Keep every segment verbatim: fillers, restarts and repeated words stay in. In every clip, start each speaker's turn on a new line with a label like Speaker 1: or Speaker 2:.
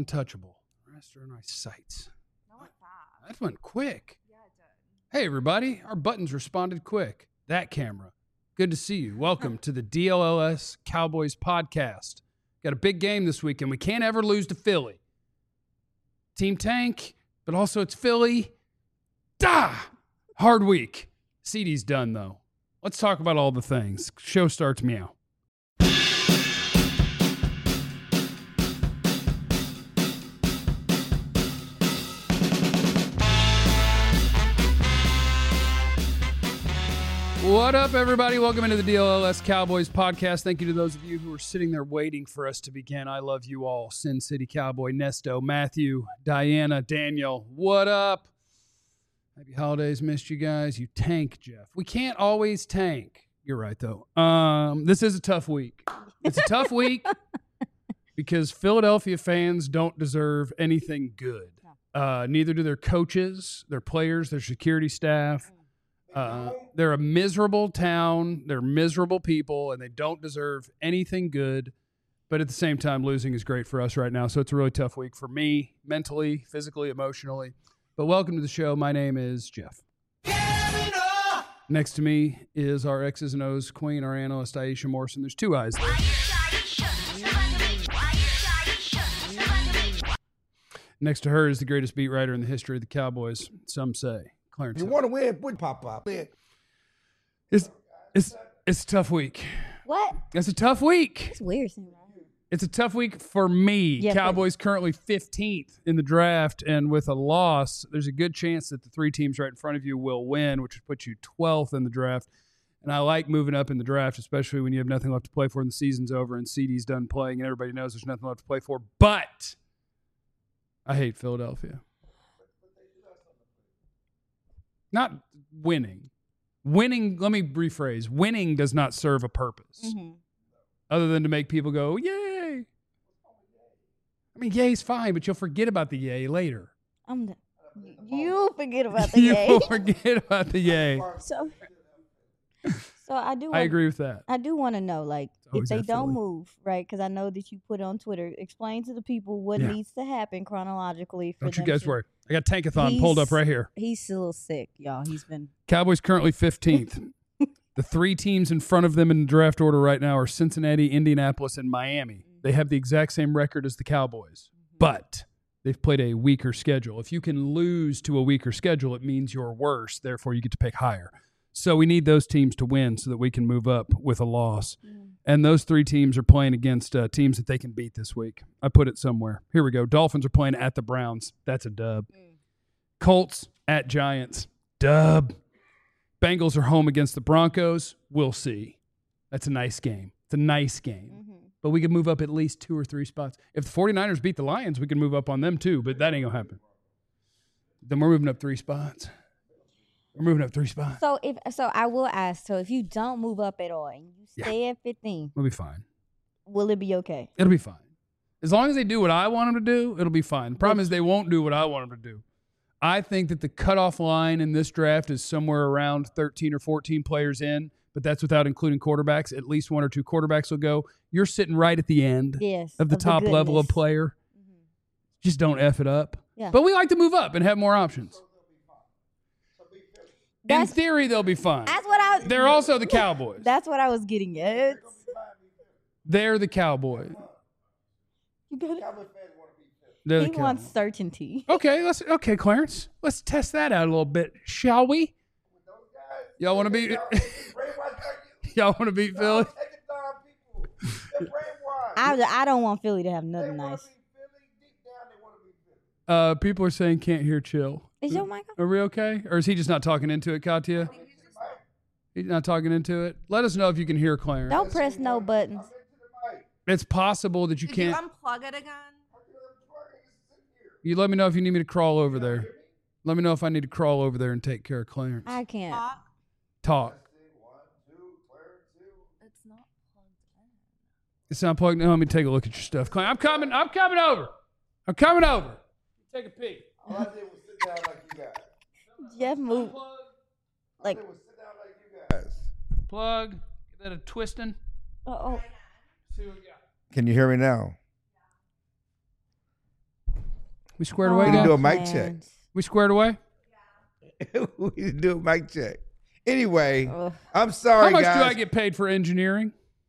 Speaker 1: untouchable. The rest are nice sights.
Speaker 2: That went fast.
Speaker 1: That went quick.
Speaker 2: Yeah, it did.
Speaker 1: Hey, everybody. Our buttons responded quick. That camera. Good to see you. Welcome to the D L L S Cowboys podcast. Got a big game this weekend. We can't ever lose to Philly. Team Tank, but also it's Philly. Da! Hard week. C D's done, though. Let's talk about all the things. Show starts meow. What up, everybody? Welcome into the D L L S Cowboys podcast. Thank you to those of you who are sitting there waiting for us to begin. I love you all. Sin City Cowboy, Nesto, Matthew, Diana, Daniel. What up? Happy holidays. Missed you guys. You tank, Jeff. We can't always tank. You're right, though. Um, this is a tough week. It's a tough week because Philadelphia fans don't deserve anything good. Uh, neither do their coaches, their players, their security staff. Uh, they're a miserable town. They're miserable people, and they don't deserve anything good. But at the same time, losing is great for us right now. So it's a really tough week for me, mentally, physically, emotionally. But welcome to the show. My name is Jeff. Next to me is our X's and O's queen, our analyst, Aisha Morrison. There's two eyes there. Next to her is the greatest beat writer in the history of the Cowboys, some say. Clarence.
Speaker 3: You want to win, put pop up.
Speaker 1: It's, it's, it's a tough week.
Speaker 4: What?
Speaker 1: It's a tough week.
Speaker 4: It's weird saying that.
Speaker 1: It's a tough week for me.
Speaker 4: Yeah,
Speaker 1: Cowboys currently fifteenth in the draft, and with a loss, there's a good chance that the three teams right in front of you will win, which would put you twelfth in the draft. And I like moving up in the draft, especially when you have nothing left to play for and the season's over and C D's done playing and everybody knows there's nothing left to play for. But I hate Philadelphia. Not winning. Winning, let me rephrase. Winning does not serve a purpose
Speaker 4: Mm-hmm.
Speaker 1: other than to make people go, yay. I mean, yay's fine, but you'll forget about the yay later.
Speaker 4: I'm the, you forget about the
Speaker 1: You'll
Speaker 4: yay.
Speaker 1: forget about the yay.
Speaker 4: So, so I do.
Speaker 1: I
Speaker 4: Want,
Speaker 1: agree with that.
Speaker 4: I do want to know, like, if
Speaker 1: always
Speaker 4: they
Speaker 1: that
Speaker 4: don't
Speaker 1: Philly.
Speaker 4: move, right? Because I know that you put on Twitter. Explain to the people what
Speaker 1: Yeah.
Speaker 4: needs to happen chronologically. For
Speaker 1: Don't you
Speaker 4: them
Speaker 1: guys
Speaker 4: to-
Speaker 1: worry. I got Tankathon pulled up
Speaker 4: He's-
Speaker 1: right here.
Speaker 4: He's still sick, y'all. He's been.
Speaker 1: Cowboys currently fifteenth. The three teams in front of them in the draft order right now are Cincinnati, Indianapolis, and Miami. They have the exact same record as the Cowboys, but they've played a weaker schedule. If you can lose to a weaker schedule, it means you're worse. Therefore, you get to pick higher. So we need those teams to win so that we can move up with a loss. And those three teams are playing against uh, teams that they can beat this week. I put it somewhere. Here we go. Dolphins are playing at the Browns. That's a dub. Colts at Giants. Dub. Bengals are home against the Broncos. We'll see. That's a nice game. It's a nice game.
Speaker 4: Mm-hmm.
Speaker 1: But we could move up at least two or three spots. If the 49ers beat the Lions, we can move up on them too, but that ain't going to happen. Then we're moving up three spots. We're moving up three spots.
Speaker 4: So if so, I will ask. So if you don't move up at all and you
Speaker 1: Yeah.
Speaker 4: stay at fifteen,
Speaker 1: We'll be fine.
Speaker 4: will it be okay?
Speaker 1: It'll be fine. As long as they do what I want them to do, it'll be fine. The problem is they won't do what I want them to do. I think that the cutoff line in this draft is somewhere around thirteen or fourteen players in, but that's without including quarterbacks. At least one or two quarterbacks will go. You're sitting right at the end
Speaker 4: Yes.
Speaker 1: of the top level of
Speaker 4: goodness.
Speaker 1: player.
Speaker 4: Mhm.
Speaker 1: Just don't F it up.
Speaker 4: Yeah.
Speaker 1: But we like to move up and have more options. In
Speaker 4: That's-
Speaker 1: theory, they'll be fine.
Speaker 4: That's what I.
Speaker 1: They're also the Cowboys.
Speaker 4: That's what I was getting at.
Speaker 1: They're the Cowboys.
Speaker 4: You got it.
Speaker 1: They're the
Speaker 4: He wants
Speaker 1: Cowboys.
Speaker 4: certainty.
Speaker 1: Okay, let's okay, Clarence. Let's test that out a little bit, shall we? Y'all want to beat? Y'all want to beat Philly?
Speaker 4: I, I don't want Philly to have nothing nice.
Speaker 1: Uh, people are saying can't hear chill.
Speaker 4: Is your mic on?
Speaker 1: Are we okay? Or is he just not talking into it, Katya? He's not talking into it. Let us know if you can hear Clarence.
Speaker 4: Don't press no buttons.
Speaker 1: It's possible that you
Speaker 2: Did
Speaker 1: can't.
Speaker 2: you unplug it again?
Speaker 1: You let me know if you need me to crawl over there. Let me know if I need to crawl over there and take care of Clarence.
Speaker 4: I can't.
Speaker 2: Talk.
Speaker 1: Talk.
Speaker 2: It's not plugged in.
Speaker 1: It's not plugged in. Let me take a look at your stuff. Clarence, I'm coming. I'm coming over. I'm coming over. Take a peek.
Speaker 3: All I did was sit down like you guys.
Speaker 4: Jeff move. Like,
Speaker 3: All I did was sit down like you guys.
Speaker 1: Plug. Give that a twisting.
Speaker 4: oh,
Speaker 1: See what we got.
Speaker 3: Can you hear me now?
Speaker 1: We squared
Speaker 4: Oh,
Speaker 1: away,
Speaker 3: We can
Speaker 1: guys?
Speaker 3: do a mic check.
Speaker 4: plans.
Speaker 1: We squared away?
Speaker 3: we need to do a mic check. Anyway,
Speaker 4: Ugh.
Speaker 3: I'm sorry,
Speaker 1: How much
Speaker 3: guys.
Speaker 1: do I get paid for engineering?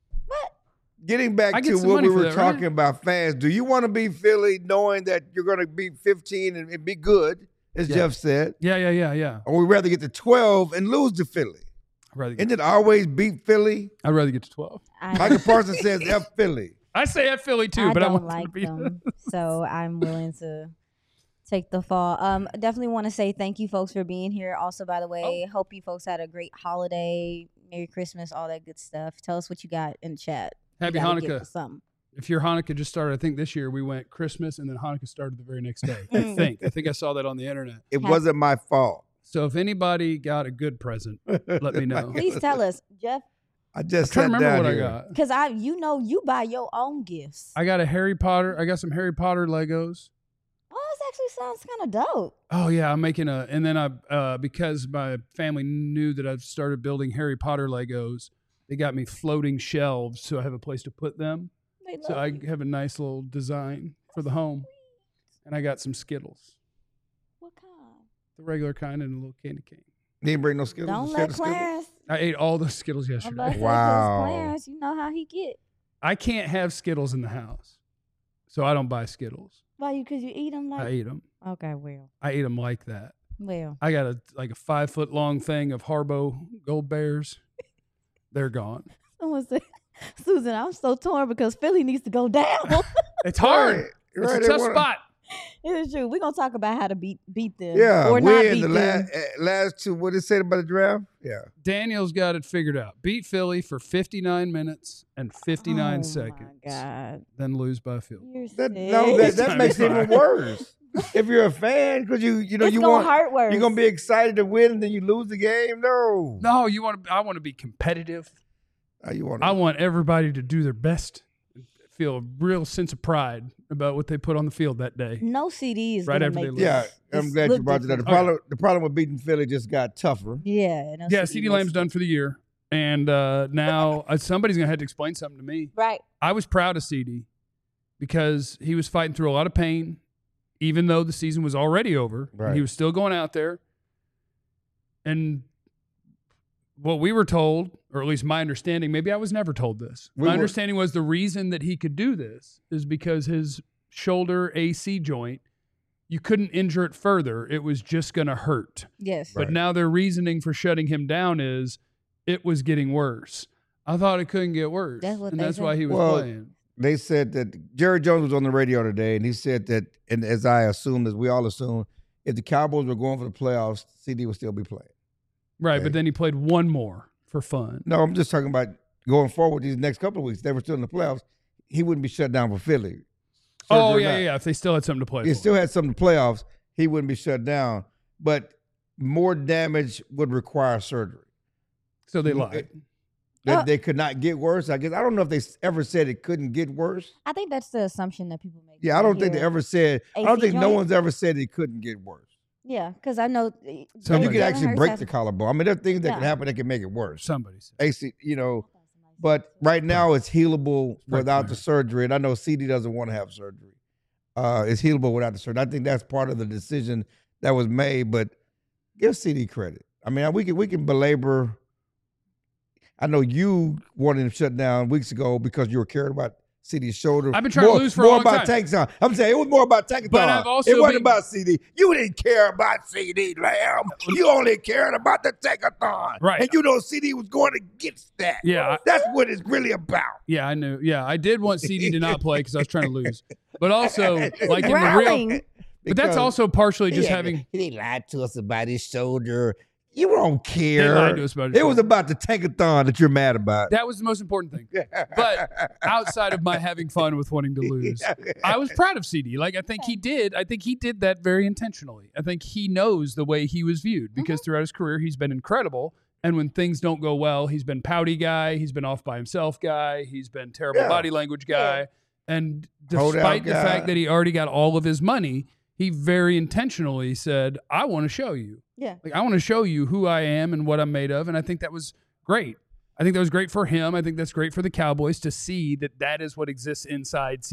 Speaker 3: Getting
Speaker 1: I
Speaker 3: back
Speaker 1: get
Speaker 3: to
Speaker 1: some
Speaker 3: what
Speaker 1: money
Speaker 3: we
Speaker 1: for
Speaker 3: were
Speaker 1: that, right?
Speaker 3: talking about fans, do you want to be Philly knowing that you're going to be fifteen and, and be good, as
Speaker 1: Yeah.
Speaker 3: Jeff said,
Speaker 1: Yeah, yeah, yeah, yeah.
Speaker 3: or we rather get to twelve and lose to Philly?
Speaker 1: I'd rather get,
Speaker 3: Isn't it always beat Philly?
Speaker 1: I'd rather get to twelve.
Speaker 4: I,
Speaker 3: Michael Parsons says F Philly.
Speaker 1: I say at Philly too,
Speaker 4: I
Speaker 1: but I
Speaker 4: don't
Speaker 1: want them
Speaker 4: like
Speaker 1: to be.
Speaker 4: them, so I'm willing to take the fall. Um, definitely want to say thank you, folks, for being here. Also, by the way, hope you folks had a great holiday, Merry Christmas, all that good stuff. Tell us what you got in the chat. You
Speaker 1: Happy
Speaker 4: gotta give
Speaker 1: Hanukkah.
Speaker 4: us something.
Speaker 1: If your Hanukkah just started, I think this year we went Christmas and then Hanukkah started the very next day. I think. I think I saw that on the internet.
Speaker 3: It
Speaker 4: Happy-
Speaker 3: wasn't my fault.
Speaker 1: So if anybody got a good present, let me know.
Speaker 4: Please tell us, Jeff,
Speaker 3: I
Speaker 1: I'm
Speaker 3: just
Speaker 1: trying to
Speaker 3: sat
Speaker 1: remember
Speaker 3: down
Speaker 1: what
Speaker 3: here.
Speaker 1: I got.
Speaker 4: because I, you know, you buy your own gifts.
Speaker 1: I got a Harry Potter. I got some Harry Potter Legos.
Speaker 4: Oh, this actually sounds kind of dope.
Speaker 1: Oh yeah, I'm making a, and then I, uh, because my family knew that I've started building Harry Potter Legos, they got me floating shelves so I have a place to put them.
Speaker 4: They
Speaker 1: So
Speaker 4: love
Speaker 1: I
Speaker 4: you.
Speaker 1: have a nice little design for the home, and I got some Skittles,
Speaker 4: What kind?
Speaker 1: the regular kind, and a little candy cane.
Speaker 3: You didn't bring no Skittles?
Speaker 4: Don't
Speaker 3: You
Speaker 4: let
Speaker 3: shared the Skittles?
Speaker 4: Clarence.
Speaker 1: I ate all the Skittles
Speaker 4: I'm
Speaker 1: yesterday.
Speaker 4: about to say, 'cause
Speaker 3: Wow.
Speaker 4: Clarence, you know how he get.
Speaker 1: I can't have Skittles in the house, so I don't buy Skittles.
Speaker 4: Why you? Because you eat them
Speaker 1: I
Speaker 4: like.
Speaker 1: eat them.
Speaker 4: Okay, well,
Speaker 1: I eat them like that.
Speaker 4: well.
Speaker 1: I got a like a five foot long thing of Haribo Gold Bears. They're gone.
Speaker 4: Someone said, Susan, I'm so torn because Philly needs to go down.
Speaker 1: It's hard.
Speaker 3: Right,
Speaker 1: It's
Speaker 3: right,
Speaker 1: a
Speaker 3: they
Speaker 1: tough
Speaker 3: wanna-
Speaker 1: spot.
Speaker 4: It is true. We're gonna talk about how to beat beat them.
Speaker 3: Yeah,
Speaker 4: or not
Speaker 3: we in
Speaker 4: beat
Speaker 3: the
Speaker 4: them.
Speaker 3: last, last two. What did it say about the draft? Yeah.
Speaker 1: Daniel's got it figured out. Beat Philly for fifty-nine minutes and fifty-nine
Speaker 4: oh
Speaker 1: seconds.
Speaker 4: My God.
Speaker 1: Then lose by a field.
Speaker 4: You're
Speaker 3: That,
Speaker 4: sick.
Speaker 3: no, that,
Speaker 1: This
Speaker 3: that
Speaker 1: time
Speaker 3: makes
Speaker 1: it's
Speaker 3: it even
Speaker 1: fine.
Speaker 3: worse. If you're a fan, because you you know
Speaker 4: it's
Speaker 3: you
Speaker 4: gonna
Speaker 3: want
Speaker 4: hurt worse.
Speaker 3: you're gonna be excited to win, and then you lose the game. No,
Speaker 1: No, you want to. I want to be competitive.
Speaker 3: no you want.
Speaker 1: I want everybody to do their best. Feel a real sense of pride about what they put on the field that day.
Speaker 4: no C D is
Speaker 1: Right
Speaker 4: gonna
Speaker 1: after they
Speaker 4: make
Speaker 1: lose.
Speaker 3: Yeah,
Speaker 4: this-
Speaker 3: I'm
Speaker 4: this
Speaker 3: glad you
Speaker 4: look
Speaker 3: brought that up. The
Speaker 4: different.
Speaker 3: problem, the problem with beating Philly just got tougher.
Speaker 4: Yeah. No
Speaker 1: Yeah,
Speaker 4: C D
Speaker 1: CeeDee
Speaker 4: makes
Speaker 1: Lamb's
Speaker 4: it-
Speaker 1: done for the year, and uh, now uh, somebody's gonna have to explain something to me.
Speaker 4: Right.
Speaker 1: I was proud of C D because he was fighting through a lot of pain, even though the season was already over.
Speaker 3: Right.
Speaker 1: He was still going out there. And what we were told, or at least my understanding, maybe I was never told this.
Speaker 3: We
Speaker 1: my
Speaker 3: were-
Speaker 1: understanding was the reason that he could do this is because his shoulder A C joint, you couldn't injure it further. It was just going to hurt.
Speaker 4: Yes.
Speaker 3: Right.
Speaker 1: But now their reasoning for shutting him down is it was getting worse. I thought it couldn't get worse.
Speaker 4: That's what
Speaker 1: and
Speaker 4: they
Speaker 1: that's
Speaker 4: say.
Speaker 1: why he was
Speaker 3: Well,
Speaker 1: playing.
Speaker 3: They said that Jerry Jones was on the radio today, and he said that, and as I assumed, as we all assumed, if the Cowboys were going for the playoffs, C D would still be playing.
Speaker 1: Right,
Speaker 3: okay.
Speaker 1: but then he played one more for fun.
Speaker 3: No, I'm just talking about going forward these next couple of weeks. They were still in the playoffs. He wouldn't be shut down for Philly.
Speaker 1: Oh,
Speaker 3: Surgery or
Speaker 1: yeah,
Speaker 3: not.
Speaker 1: yeah, yeah. If they still had something to play
Speaker 3: He
Speaker 1: for.
Speaker 3: still had some in the playoffs. He wouldn't be shut down, but more damage would require surgery.
Speaker 1: So they
Speaker 3: Mm,
Speaker 1: lied.
Speaker 3: it- That
Speaker 4: Uh,
Speaker 3: they could not get worse. I guess I don't know if they s- ever said it couldn't get worse.
Speaker 4: I think that's the assumption that people make.
Speaker 3: Yeah, I
Speaker 4: when
Speaker 3: don't think they
Speaker 4: hear-
Speaker 3: ever said. I
Speaker 4: A
Speaker 3: don't
Speaker 4: C
Speaker 3: think no
Speaker 4: joint?
Speaker 3: one's ever said it couldn't get worse.
Speaker 4: Yeah, because I know. uh,
Speaker 1: So
Speaker 3: You
Speaker 1: you
Speaker 3: could
Speaker 1: Jalen
Speaker 3: actually break the collarbone. I mean, there are things that
Speaker 4: Yeah.
Speaker 3: can happen that can make it worse.
Speaker 1: Somebody said.
Speaker 3: A C, you know, but right now it's healable without the surgery. And I know C D doesn't want to have surgery. Uh, it's healable without the surgery. I think that's part of the decision that was made. But give C D credit. I mean, we can we can belabor. I know you wanted him shut down weeks ago because you were caring about C D's shoulder.
Speaker 1: I've been trying to
Speaker 3: more,
Speaker 1: lose for a
Speaker 3: more
Speaker 1: long
Speaker 3: about
Speaker 1: time.
Speaker 3: Tankathon. I'm saying it was more about Tankathon.
Speaker 1: But I've also
Speaker 3: it wasn't
Speaker 1: been-
Speaker 3: about C D. You didn't care about C D Lamb. You only cared about the Tankathon.
Speaker 1: Right.
Speaker 3: And you know C D was going against that.
Speaker 1: Yeah, I-
Speaker 3: That's what it's really about.
Speaker 1: Yeah, I knew. Yeah, I did want C D to not play because I was trying to lose. But also, like in the real.
Speaker 4: Growling.
Speaker 1: But that's
Speaker 3: Because
Speaker 1: also partially
Speaker 3: he
Speaker 1: just
Speaker 3: had-
Speaker 1: having.
Speaker 3: He lied to us about his shoulder. You don't care.
Speaker 1: They lied to us about his
Speaker 3: it was
Speaker 1: shoulder.
Speaker 3: about the Tankathon that you're mad about.
Speaker 1: That was the most important thing. But outside of my having fun with wanting to lose, I was proud of C D. Like I think he did. I think he did that very intentionally. I think he knows the way he was viewed because throughout his career he's been incredible. And when things don't go well, he's been pouty guy. He's been off by himself guy. He's been terrible
Speaker 3: Yeah.
Speaker 1: body language guy. And
Speaker 3: Hold out
Speaker 1: despite the
Speaker 3: guy.
Speaker 1: fact that he already got all of his money, he very intentionally said, "I want to show you."
Speaker 4: Yeah.
Speaker 1: Like I want to show you who I am and what I'm made of, and I think that was great. I think that was great for him. I think that's great for the Cowboys to see that that is what exists inside C D.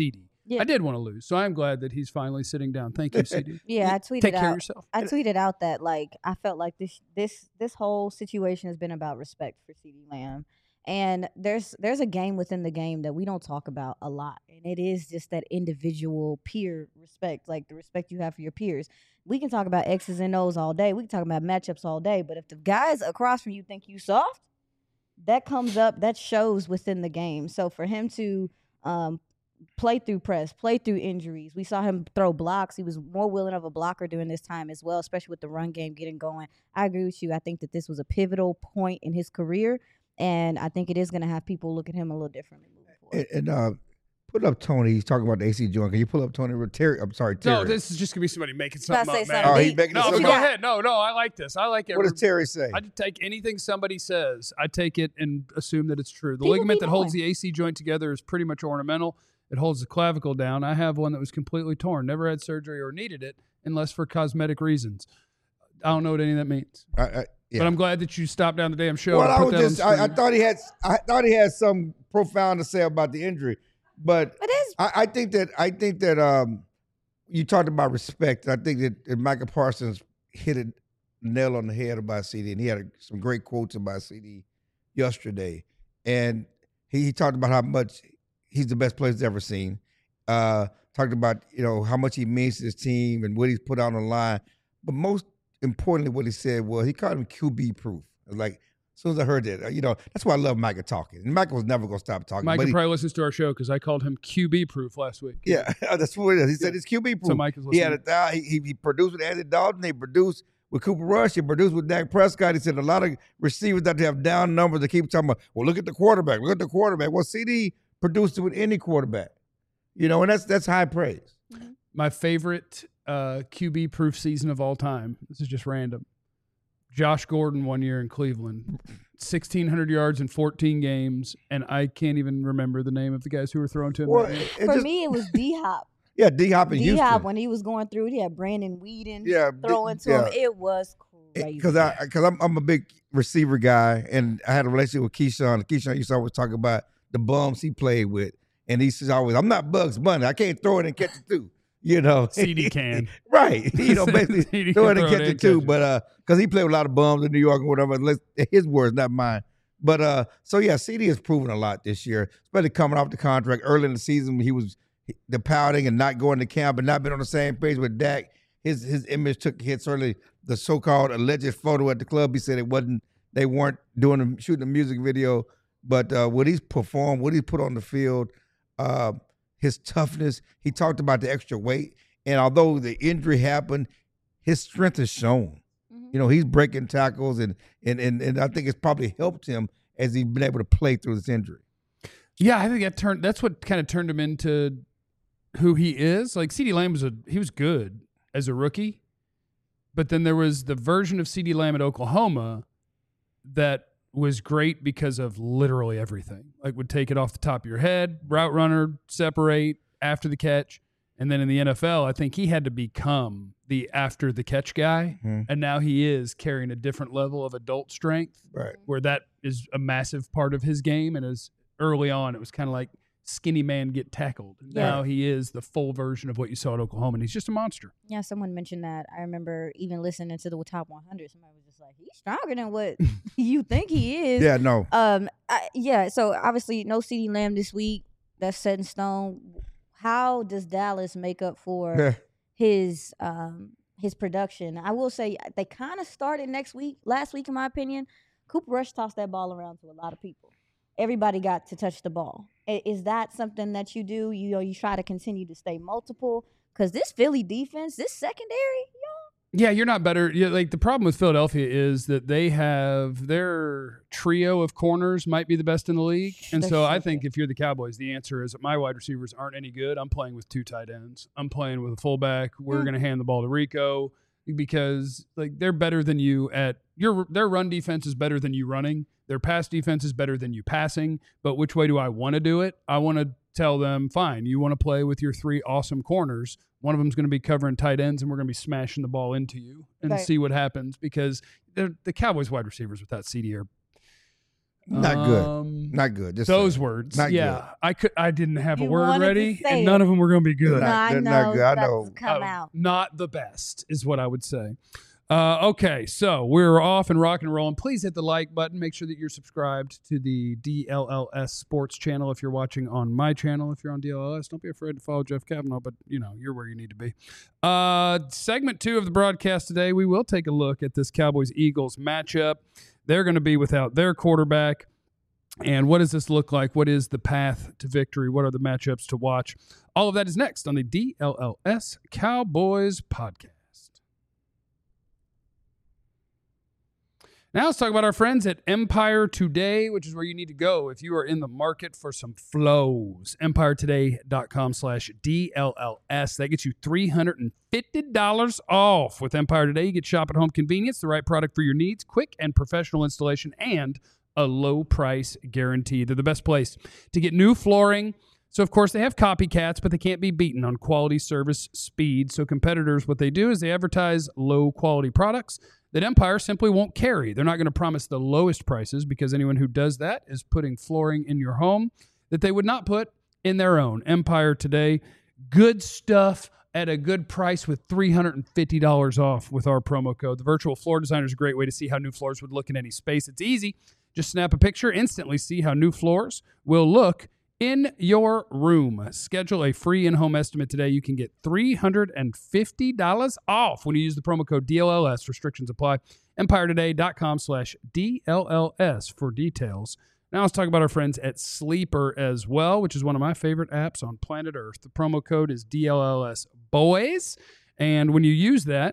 Speaker 4: Yeah.
Speaker 1: I did want to lose, so I'm glad that he's finally sitting down. Thank you, C D.
Speaker 4: Yeah, I tweeted
Speaker 1: Take care
Speaker 4: out.
Speaker 1: of yourself.
Speaker 4: I tweeted out that like I felt like this this this whole situation has been about respect for CeeDee Lamb. And there's there's a game within the game that we don't talk about a lot. And it is just that individual peer respect, like the respect you have for your peers. We can talk about X's and O's all day. We can talk about matchups all day. But if the guys across from you think you soft, that comes up, that shows within the game. So for him to um, play through press, play through injuries, we saw him throw blocks. He was more willing of a blocker during this time as well, especially with the run game getting going. I agree with you. I think that this was a pivotal point in his career. And I think it is going to have people look at him a little differently moving forward.
Speaker 3: And, and uh, put up Tony. He's talking about the A C joint. Can you pull up Tony? Terry, I'm sorry, Terry.
Speaker 1: No, this is just gonna be somebody making
Speaker 4: About
Speaker 1: something
Speaker 4: to
Speaker 1: up,
Speaker 4: say
Speaker 1: man.
Speaker 4: something.
Speaker 3: Oh, he's making
Speaker 1: No,
Speaker 3: something
Speaker 1: go
Speaker 3: up.
Speaker 1: ahead. No, no, I like this. I like it.
Speaker 3: What does Terry say?
Speaker 1: I take anything somebody says, I take it and assume that it's true. The
Speaker 4: People
Speaker 1: ligament
Speaker 4: be
Speaker 1: that holds
Speaker 4: knowing.
Speaker 1: the A C joint together is pretty much ornamental. It holds the clavicle down. I have one that was completely torn, never had surgery or needed it unless for cosmetic reasons. I don't know what any of that means.
Speaker 3: I, I, yeah.
Speaker 1: But I'm glad that you stopped down the damn show.
Speaker 3: Well,
Speaker 1: and
Speaker 3: I
Speaker 1: put
Speaker 3: was
Speaker 1: that on
Speaker 3: just, I, I
Speaker 1: screen.
Speaker 3: thought he had, I thought he had something profound to say about the injury, but
Speaker 4: But it's
Speaker 3: I, I think that, I think that um, you talked about respect. I think that, that Michael Parsons hit a nail on the head about C D, and he had a, some great quotes about C D yesterday, and he, he talked about how much he's the best player he's ever seen. Uh, talked about you know how much he means to his team and what he's put out on the line, but most importantly, what he said was he called him Q B proof. Like as soon as I heard that, you know, that's why I love Michael talking. And Michael was never gonna stop talking.
Speaker 1: Mike
Speaker 3: but
Speaker 1: can
Speaker 3: he,
Speaker 1: probably listens to our show because I called him Q B proof last week.
Speaker 3: yeah, that's what it is. He said it's Q B proof.
Speaker 1: So Mike is
Speaker 3: he had
Speaker 1: listening.
Speaker 3: a thou- he, he he produced with Andy Dalton. He produced with Cooper Rush. He produced with Dak Prescott. He said a lot of receivers that have down numbers. They keep talking about, well, look at the quarterback. Look at the quarterback. Well, C D produced it with any quarterback. You know, and that's that's high praise.
Speaker 1: My favorite uh, Q B proof season of all time. This is just random. Josh Gordon one year in Cleveland, sixteen hundred yards in fourteen games, and I can't even remember the name of the guys who were thrown to him.
Speaker 3: Well,
Speaker 1: that year.
Speaker 3: it
Speaker 4: for
Speaker 3: just-
Speaker 4: me, it was D Hop.
Speaker 3: yeah, D Hop in
Speaker 4: D
Speaker 3: Houston.
Speaker 4: Hop when he was going through it, he had Brandon Whedon
Speaker 3: Yeah,
Speaker 4: throwing
Speaker 3: D-
Speaker 4: to him.
Speaker 3: yeah.
Speaker 4: It was crazy.
Speaker 3: Because I because I'm I'm a big receiver guy, and I had a relationship with Keyshawn. Keyshawn used to always talk about the bums he played with, and he says always, "I'm not Bugs Bunny. I can't throw it and catch it too." You know,
Speaker 1: C D can.
Speaker 3: right? You know, basically
Speaker 1: C D
Speaker 3: throw
Speaker 1: can
Speaker 3: it and
Speaker 1: throw
Speaker 3: catch
Speaker 1: it
Speaker 3: it
Speaker 1: and
Speaker 3: too.
Speaker 1: catch it.
Speaker 3: But uh, because he played with a lot of bums in New York and whatever. Let's, his words, not mine. But uh, so yeah, C D has proven a lot this year, especially coming off the contract early in the season when he was the pouting and not going to camp and not been on the same page with Dak. His his image took hits early. The so-called alleged photo at the club, he said it wasn't. They weren't doing the, shooting a music video, but uh, what he's performed, what he put on the field, uh, his toughness. He talked about the extra weight, and although the injury happened, his strength is shown.
Speaker 4: Mhm.
Speaker 3: You know, he's breaking tackles, and and and and I think it's probably helped him as he's been able to play through this injury.
Speaker 1: Yeah, I think that turned. That's what kind of turned him into who he is. Like CeeDee Lamb was a he was good as a rookie, but then there was the version of CeeDee Lamb at Oklahoma that was great because of literally everything. Like would take it off the top of your head, route runner, separate after the catch, and then in the N F L, I think he had to become the after the catch guy,
Speaker 3: Mhm.
Speaker 1: and now he is carrying a different level of adult strength
Speaker 3: Right.
Speaker 1: where that is a massive part of his game. And as early on, it was kind of like skinny man get tackled. And
Speaker 4: Yeah.
Speaker 1: Now he is the full version of what you saw at Oklahoma, and he's just a monster.
Speaker 4: Yeah, someone mentioned that. I remember even listening to the top one hundred. Somebody was just like, "He's stronger than what you think he is."
Speaker 3: Yeah, no.
Speaker 4: Um. I, yeah. So obviously, no CeeDee Lamb this week. That's set in stone. How does Dallas make up for his um his production? I will say they kind of started next week, last week, in my opinion. Cooper Rush tossed that ball around to a lot of people. Everybody got to touch the ball. I- Is that something that you do? You know, you try to continue to stay multiple because this Philly defense, this secondary,
Speaker 1: Yeah, you're not better. Yeah, like the problem with Philadelphia is that they have their trio of corners might be the best in the league. And
Speaker 4: They're
Speaker 1: so I
Speaker 4: so
Speaker 1: think
Speaker 4: good.
Speaker 1: if you're the Cowboys, the answer is that my wide receivers aren't any good. I'm playing with two tight ends. I'm playing with a fullback. We're
Speaker 4: Yeah.
Speaker 1: going to hand the ball to Rico because like they're better than you at your their run defense is better than you running. Their pass defense is better than you passing. But which way do I want to do it? I want to tell them, fine, you want to play with your three awesome corners. One of them's going to be covering tight ends, and we're going to be smashing the ball into you and
Speaker 4: Right.
Speaker 1: see what happens because they're- the Cowboys wide receivers without C D are
Speaker 3: Not good.
Speaker 1: Um,
Speaker 3: Not good. Just
Speaker 1: those
Speaker 3: saying.
Speaker 1: words.
Speaker 3: Not
Speaker 1: yeah.
Speaker 3: good.
Speaker 1: I could. I didn't have a
Speaker 4: You
Speaker 1: word
Speaker 4: wanted to
Speaker 1: ready,
Speaker 4: say
Speaker 1: and
Speaker 4: it.
Speaker 1: none of them were going to be good.
Speaker 3: They're
Speaker 4: No,
Speaker 3: not-
Speaker 4: I
Speaker 3: they're
Speaker 4: know.
Speaker 3: not good. I
Speaker 4: that's
Speaker 3: know.
Speaker 4: Come
Speaker 1: Uh,
Speaker 4: out.
Speaker 1: Not the best is what I would say. Uh, okay, so we're off and rock and rolling. Please hit the like button. Make sure that you're subscribed to the D L L S Sports channel if you're watching on my channel. If you're on D L L S, don't be afraid to follow Jeff Kavanaugh, but, you know, you're where you need to be. Uh, segment two of the broadcast today, we will take a look at this Cowboys-Eagles matchup. They're going to be without their quarterback. And what does this look like? What is the path to victory? What are the matchups to watch? All of that is next on the D L L S Cowboys podcast. Now let's talk about our friends at Empire Today, which is where you need to go if you are in the market for some flows. empire today dot com slash D L L S. That gets you three hundred fifty dollars off. With Empire Today, you get shop at home convenience, the right product for your needs, quick and professional installation, and a low price guarantee. They're the best place to get new flooring. So, of course, they have copycats, but they can't be beaten on quality, service, speed. So competitors, what they do is they advertise low-quality products that Empire simply won't carry. They're not going to promise the lowest prices because anyone who does that is putting flooring in your home that they would not put in their own. Empire Today, good stuff at a good price with three hundred fifty dollars off with our promo code. The virtual floor designer is a great way to see how new floors would look in any space. It's easy. Just snap a picture, instantly see how new floors will look in your room. Schedule a free in-home estimate today. You can get three hundred fifty dollars off when you use the promo code D L L S. Restrictions apply. empire today dot com slash D L L S for details. Now let's talk about our friends at Sleeper as well, which is one of my favorite apps on planet Earth. The promo code is D L L S Boys. And when you use that,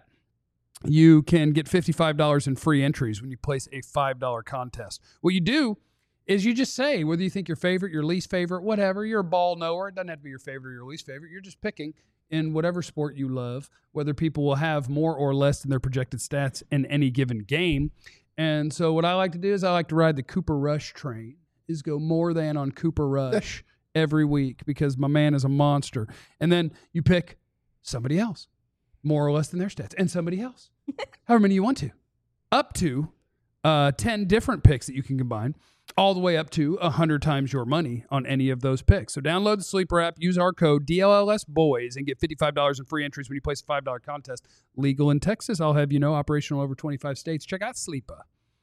Speaker 1: you can get fifty-five dollars in free entries when you place a five dollar contest. What you do is you just say whether you think your favorite, your least favorite, whatever. You're a ball knower. It doesn't have to be your favorite or your least favorite. You're just picking in whatever sport you love, whether people will have more or less than their projected stats in any given game. And so what I like to do is I like to ride the Cooper Rush train, is go more than on Cooper Rush every week because my man is a monster. And then you pick somebody else, more or less than their stats, and somebody else, however many you want to, up to uh, ten different picks that you can combine, all the way up to one hundred times your money on any of those picks. So download the Sleeper app, use our code D L L S Boys, and get fifty-five dollars in free entries when you place a five dollar contest. Legal in Texas, I'll have you know, operational over twenty-five states. Check out Sleeper.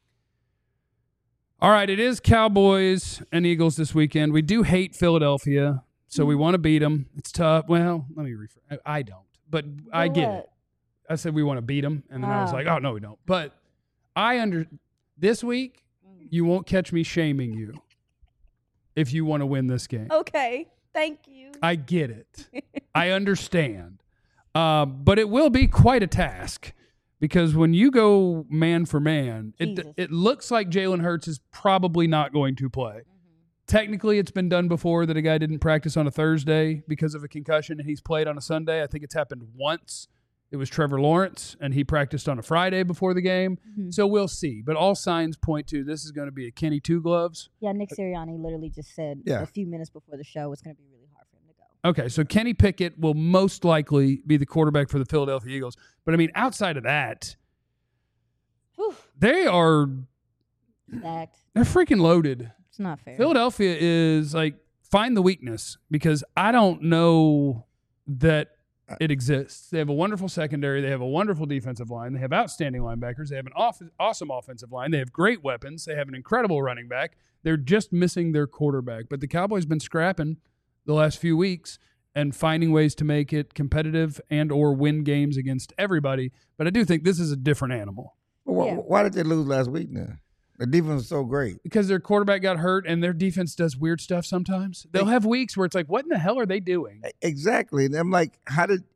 Speaker 1: All right, it is Cowboys and Eagles this weekend. We do hate Philadelphia, so we want to beat them. It's tough. Well, let me rephrase. I don't, but I get it. I said we want to beat them, and then I was
Speaker 4: Wow.
Speaker 1: like, oh, no, we don't. But I under this week, you won't catch me shaming you if you want to win this game.
Speaker 4: Okay. Thank you.
Speaker 1: I get it. I understand. Uh, but it will be quite a task because when you go man for man, it,
Speaker 4: Jesus.
Speaker 1: it looks like Jalen Hurts is probably not going to play.
Speaker 4: Mm-hmm.
Speaker 1: Technically, it's been done before that a guy didn't practice on a Thursday because of a concussion and he's played on a Sunday. I think it's happened once. It was Trevor Lawrence, and he practiced on a Friday before the game.
Speaker 4: Mm-hmm.
Speaker 1: So we'll see. But all signs point to this is going to be a Kenny Two Gloves.
Speaker 4: Yeah, Nick Sirianni literally just said
Speaker 3: Yeah.
Speaker 4: a few minutes before the show it's going to be really hard for him to go.
Speaker 1: Okay, so Kenny Pickett will most likely be the quarterback for the Philadelphia Eagles. But, I mean, outside of that,
Speaker 4: Whew.
Speaker 1: they are
Speaker 4: Stacked.
Speaker 1: they're freaking loaded.
Speaker 4: It's not fair.
Speaker 1: Philadelphia is like, find the weakness because I don't know that it exists. They have a wonderful secondary. They have a wonderful defensive line. They have outstanding linebackers. They have an off- awesome offensive line. They have great weapons. They have an incredible running back. They're just missing their quarterback. But the Cowboys been scrapping the last few weeks and finding ways to make it competitive and or win games against everybody. But I do think this is a different animal
Speaker 3: Well, wh-
Speaker 4: Yeah.
Speaker 3: Why did they lose last week now? The defense was so great.
Speaker 1: because their quarterback got hurt and their defense does weird stuff sometimes. They'll have weeks where it's like, what in the hell are they doing?
Speaker 3: Exactly. And I'm like, how did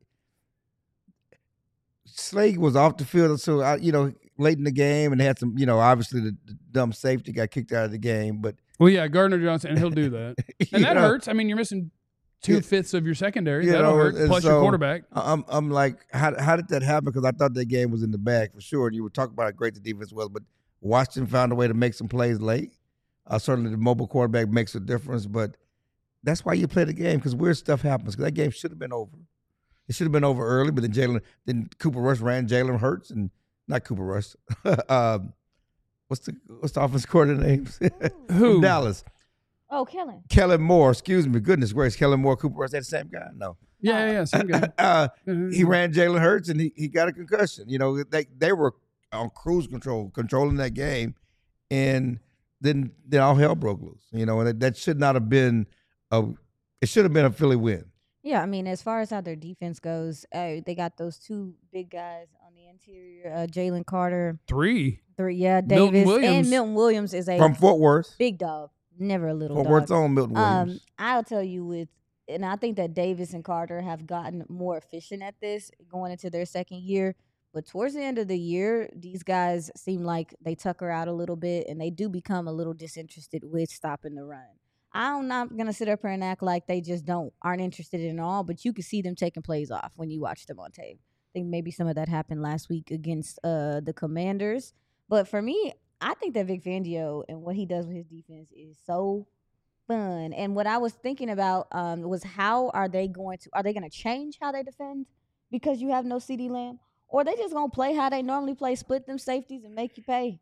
Speaker 3: Slade was off the field? So, I, you know, late in the game, and they had some, you know, obviously the, the dumb safety got kicked out of the game. But,
Speaker 1: Well, yeah, Gardner Johnson, and he'll do that. And
Speaker 3: you
Speaker 1: that
Speaker 3: know,
Speaker 1: hurts. I mean, you're missing two-fifths of your secondary.
Speaker 3: you
Speaker 1: That'll
Speaker 3: know,
Speaker 1: hurt,
Speaker 3: and
Speaker 1: plus your
Speaker 3: so-
Speaker 1: quarterback.
Speaker 3: I'm, I'm like, how, how did that happen? Because I thought that game was in the bag for sure. And you were talking about how great the defense was, but Washington found a way to make some plays late. Uh, certainly the mobile quarterback makes a difference, but that's why you play the game, because weird stuff happens. Because that game should have been over. It should have been over early, but then Jalen, then Cooper Rush ran Jalen Hurts, and not Cooper Rush. um, what's the what's the offense coordinator names?
Speaker 1: Who?
Speaker 3: From Dallas.
Speaker 4: Oh, Kellen.
Speaker 3: Kellen Moore. Excuse me. Goodness gracious. Kellen Moore, Cooper Rush. That same guy? No.
Speaker 1: Yeah, yeah, yeah. Same guy.
Speaker 3: uh,
Speaker 1: Mhm.
Speaker 3: he ran Jalen Hurts and he, he got a concussion. You know, they they were on cruise control, controlling that game, and then then all hell broke loose. You know, and that, that should not have been a. It should have been a Philly win.
Speaker 4: Yeah, I mean, as far as how their defense goes, uh, they got those two big guys on the interior, uh, Jalen Carter,
Speaker 1: Three.
Speaker 4: three, yeah,
Speaker 1: Milton
Speaker 4: Davis,
Speaker 1: Williams.
Speaker 4: and Milton Williams is a
Speaker 3: From Fort Worth.
Speaker 4: big dog, never a little
Speaker 3: Fort
Speaker 4: dog.
Speaker 3: Worth's own Milton Williams.
Speaker 4: Um, I'll tell you with, and I think that Davis and Carter have gotten more efficient at this going into their second year. But towards the end of the year, these guys seem like they tucker out a little bit, and they do become a little disinterested with stopping the run. I'm not gonna sit up here and act like they just don't aren't interested in all, but you can see them taking plays off when you watch them on tape. I think maybe some of that happened last week against uh, the Commanders. But for me, I think that Vic Fangio and what he does with his defense is so fun. And what I was thinking about um, was how are they going to are they going to change how they defend because you have no CeeDee Lamb, or are they just going to play how they normally play, split them safeties and make you pay?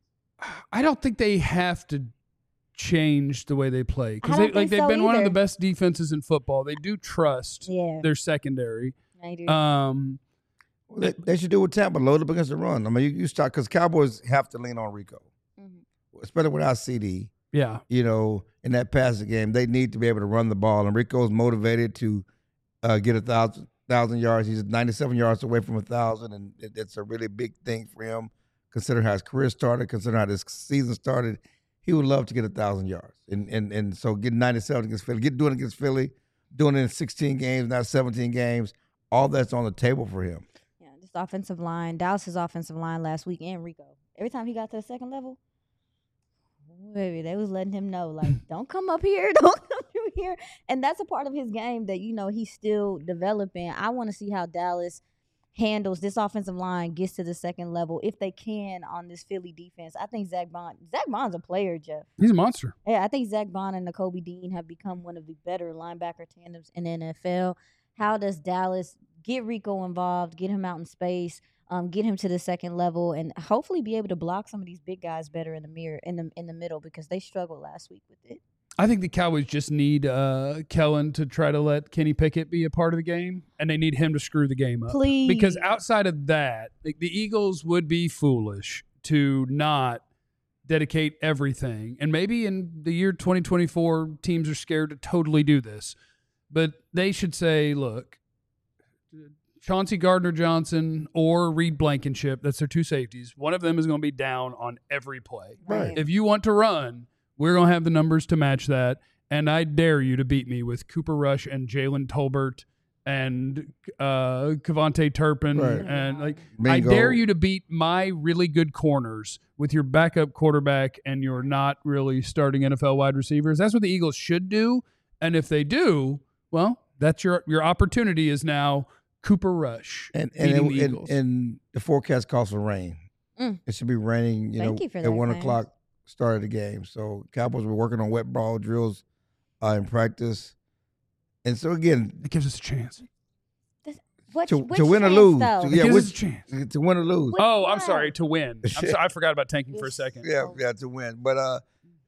Speaker 1: I don't think they have to change the way they play
Speaker 4: I
Speaker 1: because
Speaker 4: don't
Speaker 1: they, like
Speaker 4: think
Speaker 1: they've
Speaker 4: so
Speaker 1: been one of the
Speaker 4: either.
Speaker 1: best defenses in football. They do trust
Speaker 4: Yeah,
Speaker 1: their secondary.
Speaker 4: I do.
Speaker 1: Um,
Speaker 3: Well, they, they should do with Tampa, load up against the run. I mean, you, you start because Cowboys have to lean on Rico,
Speaker 4: Mhm.
Speaker 3: especially without C D.
Speaker 1: yeah,
Speaker 3: You know, in that passing game, they need to be able to run the ball, and Rico's motivated to uh, get a thousand thousand yards. He's ninety-seven yards away from a thousand, and it, it's a really big thing for him. Considering how his career started, considering how this season started, he would love to get a thousand yards, and and and so getting ninety-seven against Philly, get doing it against Philly, doing it in sixteen games, not seventeen games. All that's on the table for him.
Speaker 4: Yeah, this offensive line, Dallas's offensive line last week, and Rico. Every time he got to the second level, ooh, baby, they was letting him know, like, don't come up here, don't come through here. And that's a part of his game that, you know, he's still developing. I want to see how Dallas handles this offensive line, gets to the second level, if they can, on this Philly defense. I think Zach Bond, Zach Bond's a player, Jeff.
Speaker 1: he's a monster.
Speaker 4: Yeah, I think Zach Bond and Nakobe Dean have become one of the better linebacker tandems in the N F L. How does Dallas get Rico involved, get him out in space, um, get him to the second level, and hopefully be able to block some of these big guys better in the mirror in the in the middle because they struggled last week with it.
Speaker 1: I think the Cowboys just need uh, Kellen to try to let Kenny Pickett be a part of the game, and they need him to screw the game up.
Speaker 4: Please.
Speaker 1: Because outside of that, the, the Eagles would be foolish to not dedicate everything. And maybe in the year twenty twenty-four, teams are scared to totally do this. But they should say, look, Chauncey Gardner-Johnson or Reed Blankenship, that's their two safeties, one of them is going to be down on every play.
Speaker 3: Right.
Speaker 1: If you want to run, we're going to have the numbers to match that. And I dare you to beat me with Cooper Rush and Jalen Tolbert and uh, Kevontae Turpin.
Speaker 3: Right.
Speaker 1: And like, I
Speaker 3: Bingo.
Speaker 1: dare you to beat my really good corners with your backup quarterback and your not really starting N F L wide receivers. That's what the Eagles should do. And if they do, well, that's your your opportunity is now Cooper Rush
Speaker 3: And and,
Speaker 1: beating
Speaker 3: it-
Speaker 1: the
Speaker 3: and,
Speaker 1: Eagles.
Speaker 3: and the forecast calls for rain.
Speaker 4: Mm.
Speaker 3: It should be raining, you
Speaker 4: Thank
Speaker 3: know,
Speaker 4: you for
Speaker 3: at
Speaker 4: that,
Speaker 3: one
Speaker 4: Clarence.
Speaker 3: o'clock start of the game. So Cowboys were working on wet ball drills uh, in practice. And so again,
Speaker 1: it gives us a chance.
Speaker 4: Which,
Speaker 3: to,
Speaker 4: which
Speaker 3: to win or
Speaker 4: chance,
Speaker 3: lose.
Speaker 4: though?
Speaker 3: To-
Speaker 1: It
Speaker 3: yeah,
Speaker 1: gives
Speaker 3: which,
Speaker 1: us a chance.
Speaker 3: to win or lose.
Speaker 4: Which
Speaker 1: Oh, I'm
Speaker 4: one?
Speaker 1: sorry, to win. I'm sorry, I forgot about tanking for a second.
Speaker 3: Yeah, yeah, to win. But uh,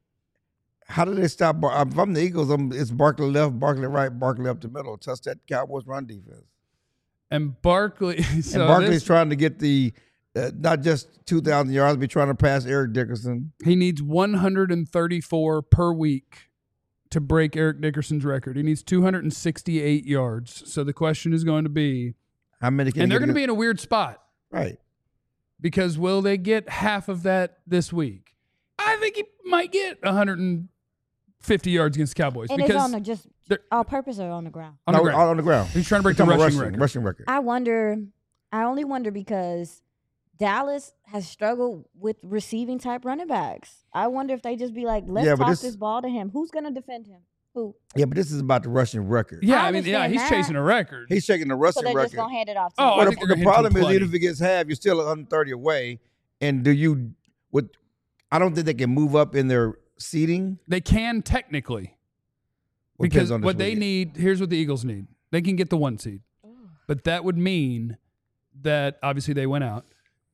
Speaker 3: how do they stop? Bar- if I'm the Eagles, I'm, it's Barkley left, Barkley right, Barkley up the middle. Touch that Cowboys run defense.
Speaker 1: And Barkley, so
Speaker 3: and Barkley's
Speaker 1: this-
Speaker 3: trying to get the uh, not just two thousand yards, but trying to pass Eric Dickerson.
Speaker 1: he needs one hundred thirty-four per week to break Eric Dickerson's record. He needs two hundred sixty-eight yards. So the question is going to be,
Speaker 3: How many? Can
Speaker 1: and
Speaker 3: he
Speaker 1: they're
Speaker 3: get
Speaker 1: going to be
Speaker 3: against-
Speaker 1: in a weird spot
Speaker 3: right.
Speaker 1: because will they get half of that this week? I think he might get one hundred fifty yards against the Cowboys
Speaker 4: And it's
Speaker 1: because
Speaker 4: on the just
Speaker 1: they're-
Speaker 4: all purpose or on the ground.
Speaker 1: on the
Speaker 3: No,
Speaker 1: ground.
Speaker 3: all on the ground.
Speaker 1: He's trying to break the
Speaker 3: Talking about
Speaker 1: rushing,
Speaker 3: rushing,
Speaker 1: record.
Speaker 3: rushing record.
Speaker 4: I wonder. I only wonder because Dallas has struggled with receiving type running backs. I wonder if they just be like, let's
Speaker 3: Yeah, but
Speaker 4: toss
Speaker 3: this-
Speaker 4: this, ball to him. Who's going to defend him? Who?
Speaker 3: Yeah, but this is about the rushing record.
Speaker 1: Yeah,
Speaker 4: I
Speaker 1: I mean, yeah,
Speaker 4: understand
Speaker 1: he's
Speaker 4: that.
Speaker 1: chasing a record.
Speaker 3: He's shaking the
Speaker 4: So
Speaker 3: rushing
Speaker 4: they're
Speaker 3: record.
Speaker 4: just going to hand it off to
Speaker 1: Oh,
Speaker 4: him.
Speaker 1: I
Speaker 3: Well,
Speaker 1: think
Speaker 3: the,
Speaker 1: they're
Speaker 3: the
Speaker 1: gonna hit him
Speaker 3: problem is,
Speaker 1: plenty.
Speaker 3: even if it gets half, you're still one hundred thirty away. And do you? With, I don't think they can move up in their seating.
Speaker 1: They can technically.
Speaker 3: Well,
Speaker 1: Because
Speaker 3: depends on this
Speaker 1: what they
Speaker 3: weekend.
Speaker 1: need, here's what the Eagles need. They can get the one seed. But that would mean that obviously they went out.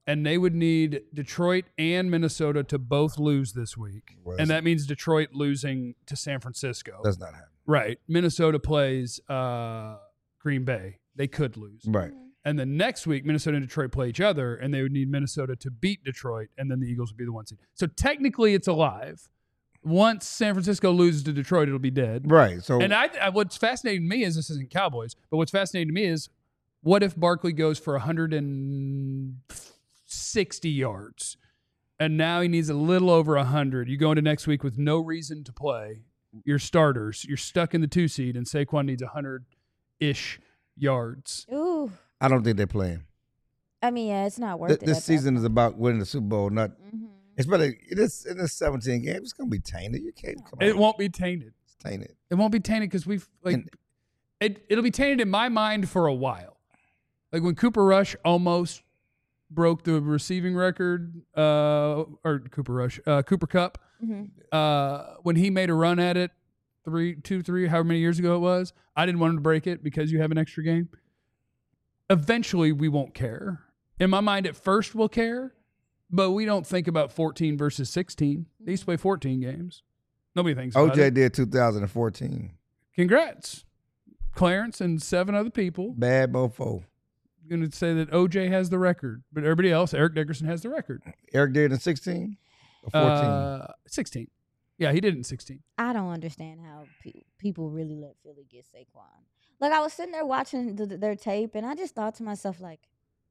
Speaker 1: and they would need Detroit and Minnesota to both lose this week.
Speaker 3: Well,
Speaker 1: And that means Detroit losing to San Francisco.
Speaker 3: Does not happen.
Speaker 1: Right. Minnesota plays uh, Green Bay. They could lose.
Speaker 3: Right.
Speaker 1: And then next week, Minnesota and Detroit play each other, and they would need Minnesota to beat Detroit, and then the Eagles would be the one seed. So technically, it's alive. Once San Francisco loses to Detroit, it'll be dead.
Speaker 3: Right. So
Speaker 1: And I, I, what's fascinating to me is this isn't Cowboys, but what's fascinating to me is what if Barkley goes for one hundred sixty yards, and now he needs a little over one hundred. You go into next week with no reason to play your starters. You're stuck in the two seed, and Saquon needs one hundred-ish yards.
Speaker 4: Ooh.
Speaker 3: I don't think they're playing.
Speaker 4: I mean, yeah, it's not worth
Speaker 3: Th-
Speaker 4: it.
Speaker 3: this
Speaker 4: at that
Speaker 3: season is
Speaker 4: point.
Speaker 3: about winning the Super Bowl, not.
Speaker 4: Mhm.
Speaker 3: It's better. It is in this seventeen games. It's gonna be tainted. You can't come
Speaker 1: It
Speaker 3: on.
Speaker 1: won't be tainted.
Speaker 3: It's tainted.
Speaker 1: It won't be tainted because we've like
Speaker 3: And-
Speaker 1: it. It'll be tainted in my mind for a while. Like when Cooper Rush almost broke the receiving record, uh, or Cooper Rush, uh, Cooper Cup,
Speaker 4: Mhm.
Speaker 1: uh, when he made a run at it, three, two, three, however many years ago it was. I didn't want him to break it because you have an extra game. Eventually, we won't care. In my mind, at first, we'll care, but we don't think about fourteen versus sixteen. They used to play fourteen games. Nobody thinks about
Speaker 3: O J
Speaker 1: it.
Speaker 3: did two thousand fourteen.
Speaker 1: Congrats, Clarence and seven other people.
Speaker 3: Bad mofo.
Speaker 1: Going to say that O J has the record, but everybody else, Eric Dickerson has the record.
Speaker 3: Eric did in sixteen or fourteen.
Speaker 1: Uh, sixteen. Yeah, he did it in sixteen.
Speaker 4: I don't understand how pe- people really let Philly get Saquon. Like, I was sitting there watching the, their tape, and I just thought to myself, like,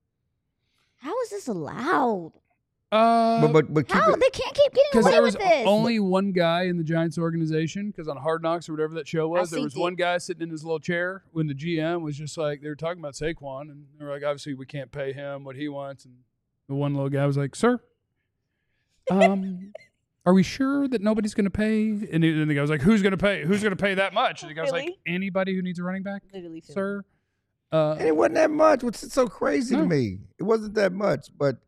Speaker 4: how is this allowed?
Speaker 1: Uh,
Speaker 3: but but but keep
Speaker 4: How?
Speaker 3: it,
Speaker 4: They can't keep getting
Speaker 1: Because
Speaker 4: away
Speaker 1: there
Speaker 4: with
Speaker 1: was
Speaker 4: this.
Speaker 1: only one guy in the Giants organization, because on Hard Knocks or whatever that show was,
Speaker 4: I
Speaker 1: there was
Speaker 4: seen
Speaker 1: one
Speaker 4: it.
Speaker 1: guy sitting in his little chair when the G M was just like, they were talking about Saquon, and they were like, obviously we can't pay him what he wants. And the one little guy was like, sir, um, are we sure that nobody's going to pay? And, he, and the guy was like, who's going to pay? Who's going to pay that much? And the guy was like,
Speaker 4: Really?
Speaker 1: anybody who needs a running back,
Speaker 4: Literally, Philly.
Speaker 1: sir. Uh,
Speaker 3: and it wasn't that much. What's so crazy
Speaker 1: No.
Speaker 3: to me? It wasn't that much. But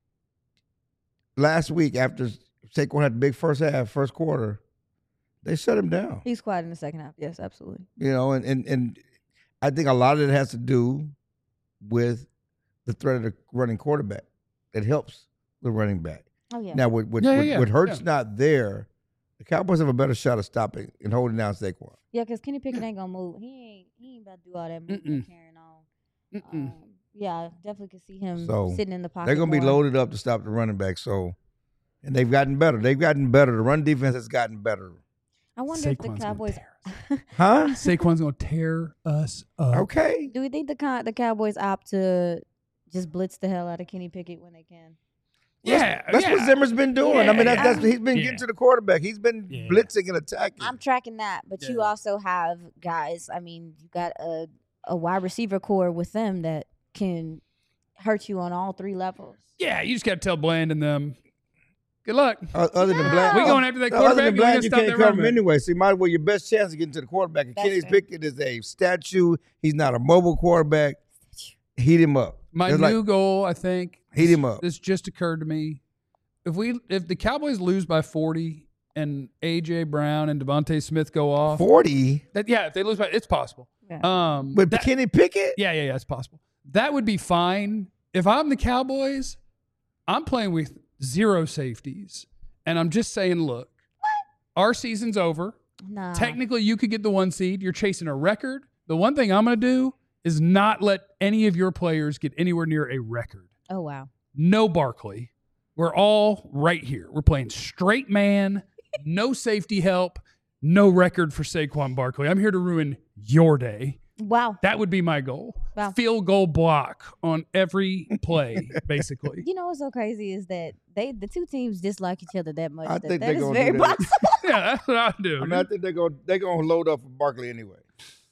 Speaker 3: last week, after Saquon had the big first half, first quarter, they shut him down.
Speaker 4: He's quiet in the second half. Yes, absolutely.
Speaker 3: You know, and, and and I think a lot of it has to do with the threat of the running quarterback. It helps the running back.
Speaker 4: Oh, yeah.
Speaker 3: Now, with with,
Speaker 1: Yeah, yeah,
Speaker 3: with,
Speaker 1: yeah,
Speaker 3: with Hurts
Speaker 1: yeah.
Speaker 3: not there, the Cowboys have a better shot of stopping and holding down Saquon.
Speaker 4: Yeah, because Kenny Pickett ain't going to move. He ain't, he ain't about to do all that moving and
Speaker 1: Mm-mm.
Speaker 4: carrying on.
Speaker 1: mm-mm.
Speaker 4: Um, yeah, I definitely could see him
Speaker 3: So,
Speaker 4: sitting in the pocket.
Speaker 3: They're going to be
Speaker 4: more.
Speaker 3: loaded up to stop the running back. So, and they've gotten better. They've gotten better. The run defense has gotten better.
Speaker 4: I wonder if the
Speaker 1: Saquon's gonna
Speaker 4: Cowboys.
Speaker 1: tear us.
Speaker 3: Huh?
Speaker 1: Saquon's going to tear us up.
Speaker 3: Okay.
Speaker 4: Do we think the Cow- the Cowboys opt to just blitz the hell out of Kenny Pickett when they can?
Speaker 1: Yeah,
Speaker 3: That's
Speaker 1: yeah.
Speaker 3: what Zimmer's been doing. I mean, that's, that's
Speaker 4: Yeah.
Speaker 3: he's been
Speaker 1: Yeah.
Speaker 3: getting to the quarterback. He's been
Speaker 1: Yeah.
Speaker 3: blitzing and attacking.
Speaker 4: I'm tracking that, but you
Speaker 1: Yeah.
Speaker 4: also have guys. I mean, you got a a wide receiver core with them that can hurt you on all three levels.
Speaker 1: Yeah, you just got to tell Bland and them, good luck.
Speaker 3: O- Other than
Speaker 4: No.
Speaker 3: Bland,
Speaker 1: We going after that
Speaker 3: other
Speaker 1: quarterback,
Speaker 3: than
Speaker 1: and we
Speaker 3: Bland,
Speaker 1: gonna
Speaker 3: you
Speaker 1: stop
Speaker 3: can't
Speaker 1: that
Speaker 3: cover
Speaker 1: running
Speaker 3: him
Speaker 1: back.
Speaker 3: anyway. So you might as well your best chance of getting to the quarterback. And
Speaker 4: That's
Speaker 3: Kenny
Speaker 4: fair.
Speaker 3: Pickett is a statue. He's not a mobile quarterback. Heat him up.
Speaker 1: My
Speaker 3: It's
Speaker 1: new
Speaker 3: like,
Speaker 1: goal, I think,
Speaker 3: Heat him up.
Speaker 1: this just occurred to me. If we if the Cowboys lose by forty and A J Brown and Devontae Smith go off,
Speaker 3: forty
Speaker 1: that yeah, if they lose by, it's possible.
Speaker 4: Yeah.
Speaker 1: Um,
Speaker 3: with
Speaker 1: that-
Speaker 3: Kenny Pickett.
Speaker 1: yeah, yeah, yeah, it's possible. That would be fine. If I'm the Cowboys, I'm playing with zero safeties, and I'm just saying, look, our season's over.
Speaker 4: Nah.
Speaker 1: Technically, you could get the one seed. You're chasing a record. The one thing I'm going to do is not let any of your players get anywhere near a record.
Speaker 4: Oh wow.
Speaker 1: No Barkley. We're all right here. We're playing straight man, no safety help, no record for Saquon Barkley. I'm here to ruin your day.
Speaker 4: Wow.
Speaker 1: That would be my goal.
Speaker 4: Wow.
Speaker 1: Field goal block on every play, basically.
Speaker 4: You know what's so crazy is that they the two teams dislike each other that much.
Speaker 3: I
Speaker 4: that
Speaker 3: think
Speaker 4: that
Speaker 3: they're
Speaker 4: is
Speaker 3: gonna
Speaker 4: very
Speaker 3: do that.
Speaker 4: possible.
Speaker 1: Yeah, that's what I do.
Speaker 3: I mean, I think they're going they're going to load up for Barkley anyway.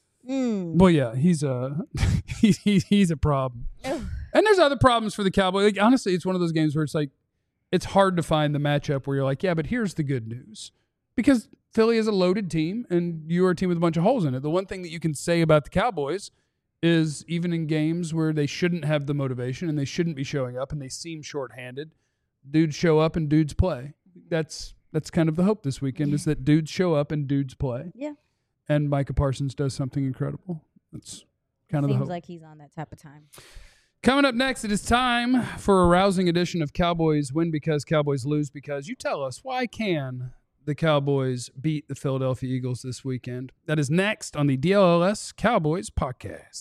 Speaker 4: Mm.
Speaker 1: Well, yeah, he's a he, he, he's a problem.
Speaker 4: Ugh.
Speaker 1: And there's other problems for the Cowboys. Like, honestly, it's one of those games where it's like it's hard to find the matchup where you're like, yeah, but here's the good news. Because Philly is a loaded team and you are a team with a bunch of holes in it. The one thing that you can say about the Cowboys is even in games where they shouldn't have the motivation and they shouldn't be showing up and they seem shorthanded, dudes show up and dudes play. That's that's kind of the hope this weekend is that dudes show up and dudes play.
Speaker 4: Yeah.
Speaker 1: And Micah Parsons does something incredible. That's kind of the
Speaker 4: Seems
Speaker 1: hope.
Speaker 4: like he's on that type of time.
Speaker 1: Coming up next, it is time for a rousing edition of Cowboys Win Because, Cowboys Lose Because. You tell us, why can the Cowboys beat the Philadelphia Eagles this weekend? That is next on the D L L S Cowboys podcast.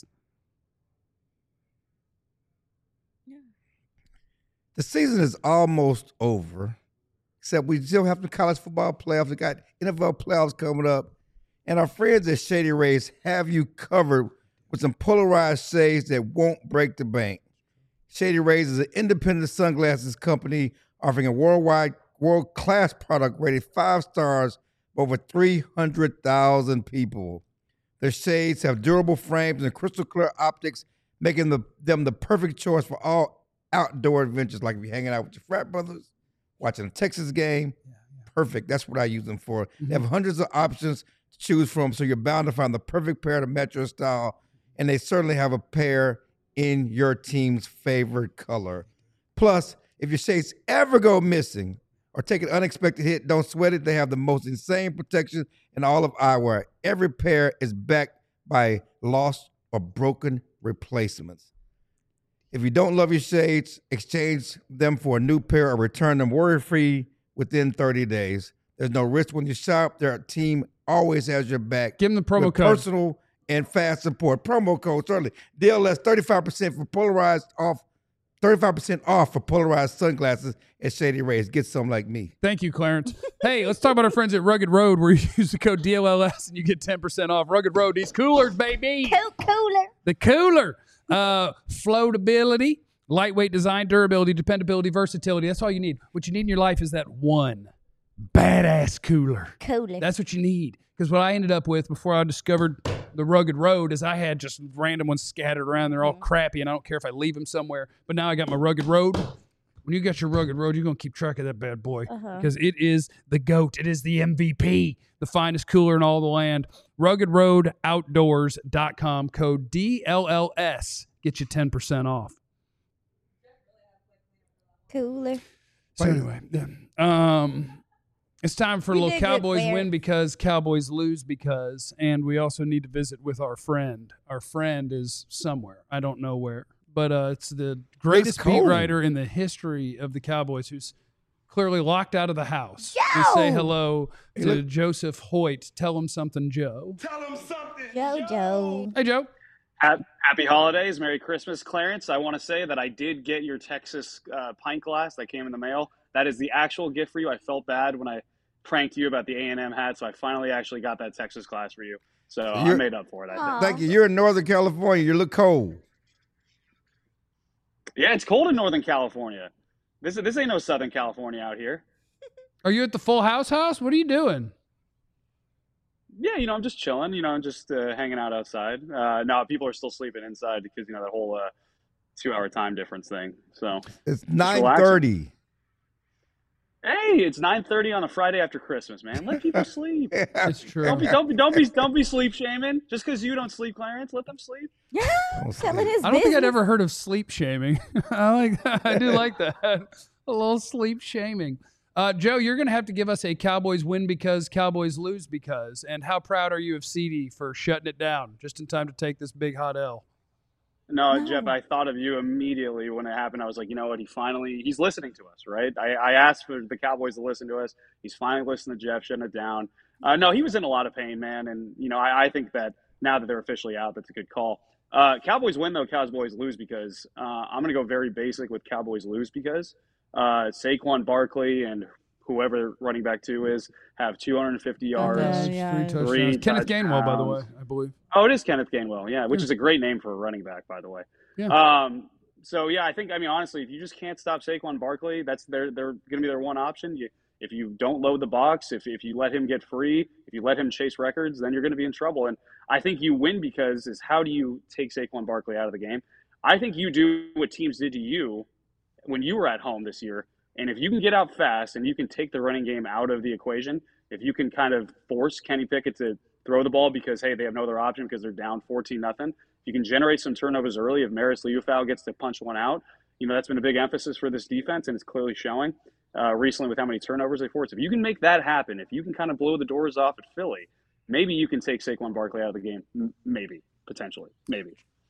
Speaker 3: The season is almost over, except we still have the college football playoffs. We got N F L playoffs coming up. And our friends at Shady Rays have you covered with some polarized shades that won't break the bank. Shady Rays is an independent sunglasses company offering a worldwide, world-class product rated five stars by over three hundred thousand people. Their shades have durable frames and crystal clear optics, making the, them the perfect choice for all outdoor adventures, like if you're hanging out with your frat brothers, watching a Texas game. Yeah, yeah. Perfect. That's what I use them for. Mm-hmm. They have hundreds of options to choose from, so you're bound to find the perfect pair to match your style, and they certainly have a pair in your team's favorite color. Plus, if your shades ever go missing or take an unexpected hit, don't sweat it. They have the most insane protection in all of eyewear. Every pair is backed by lost or broken replacements. If you don't love your shades, exchange them for a new pair or return them worry-free within thirty days. There's no risk when you shop. Their team always has your back.
Speaker 1: Give them the promo
Speaker 3: with
Speaker 1: code.
Speaker 3: Personal and fast support. Promo code, certainly. D L S, thirty-five percent for polarized off, thirty-five percent off for polarized sunglasses at Shady Rays. Get some like me.
Speaker 1: Thank you, Clarence. Hey, let's talk about our friends at Rugged Road, where you use the code D L L S and you get ten percent off. Rugged Road, these coolers, baby.
Speaker 4: Cool cooler.
Speaker 1: The cooler. Uh, floatability, lightweight design, durability, dependability, versatility. That's all you need. What you need in your life is that one badass cooler.
Speaker 4: Cooler.
Speaker 1: That's what you need. Because what I ended up with before I discovered the Rugged Road is I had just random ones scattered around. They're all mm-hmm. crappy, and I don't care if I leave them somewhere. But now I got my Rugged Road. When you got your Rugged Road, you're going to keep track of that bad boy. Because uh-huh. it is the GOAT. It is the M V P. The finest cooler in all the land. rugged road outdoors dot com. Code D L L S. Get you ten percent off.
Speaker 4: Cooler.
Speaker 1: So anyway, yeah. um, it's time for a little Cowboys Win Because, Cowboys Lose Because. And we also need to visit with our friend. Our friend is somewhere. I don't know where. But uh, it's the greatest beat writer in the history of the Cowboys who's clearly locked out of the house.
Speaker 4: Joe!
Speaker 1: We say hello to hey, Joseph Hoyt. Tell him something, Joe.
Speaker 5: Tell him something,
Speaker 4: Joe. Joe.
Speaker 1: Hey, Joe.
Speaker 5: Happy holidays. Merry Christmas, Clarence. I want to say that I did get your Texas uh, pint glass that came in the mail. That is the actual gift for you. I felt bad when I pranked you about the A and M hat, so I finally actually got that Texas glass for you. So You're, I made up for it, I think.
Speaker 3: Thank you. You're in Northern California. You look cold.
Speaker 5: Yeah, it's cold in Northern California. This this ain't no Southern California out here.
Speaker 1: Are you at the Full House house? What are you doing?
Speaker 5: Yeah, you know, I'm just chilling. You know, I'm just uh, hanging out outside. Uh, no, people are still sleeping inside because, you know, that whole uh, two-hour time difference thing. So
Speaker 3: it's nine thirty.
Speaker 5: Hey, it's nine thirty on a Friday after Christmas, man. Let people sleep.
Speaker 1: Yeah, it's true.
Speaker 5: Don't be, don't be, don't be, don't be sleep shaming. Just because you don't sleep, Clarence, let them sleep.
Speaker 4: Yeah, telling his
Speaker 1: I don't
Speaker 4: business.
Speaker 1: think I'd ever heard of sleep shaming. I like that. I do like that. A little sleep shaming. Uh, Joe, you're going to have to give us a Cowboys Win Because, Cowboys Lose Because. And how proud are you of C D for shutting it down just in time to take this big hot L?
Speaker 5: No, no, Jeff, I thought of you immediately when it happened. I was like, you know what? He finally, he's listening to us, right? I, I asked for the Cowboys to listen to us. He's finally listening to Jeff, shutting it down. Uh, no, he was in a lot of pain, man. And, you know, I, I think that now that they're officially out, that's a good call. Uh, Cowboys win, though. Cowboys lose because uh, I'm going to go very basic with Cowboys lose because uh, Saquon Barkley and whoever running back two is have two hundred fifty yards,
Speaker 1: uh, yeah. three touchdowns. Three Kenneth Gainwell, by the way, I believe.
Speaker 5: Oh, it is Kenneth Gainwell, yeah, which yeah. is a great name for a running back, by the way.
Speaker 1: Yeah.
Speaker 5: Um, so, yeah, I think, I mean, honestly, if you just can't stop Saquon Barkley, that's their, they're going to be their one option. You, if you don't load the box, if, if you let him get free, if you let him chase records, then you're going to be in trouble. And I think you win because is how do you take Saquon Barkley out of the game? I think you do what teams did to you when you were at home this year. And if you can get out fast and you can take the running game out of the equation, if you can kind of force Kenny Pickett to throw the ball because, hey, they have no other option because they're down fourteen nothing, you can generate some turnovers early. If Maris Liufau gets to punch one out, you know, that's been a big emphasis for this defense, and it's clearly showing uh, recently with how many turnovers they force. If you can make that happen, if you can kind of blow the doors off at Philly, maybe you can take Saquon Barkley out of the game. M- maybe, potentially, maybe.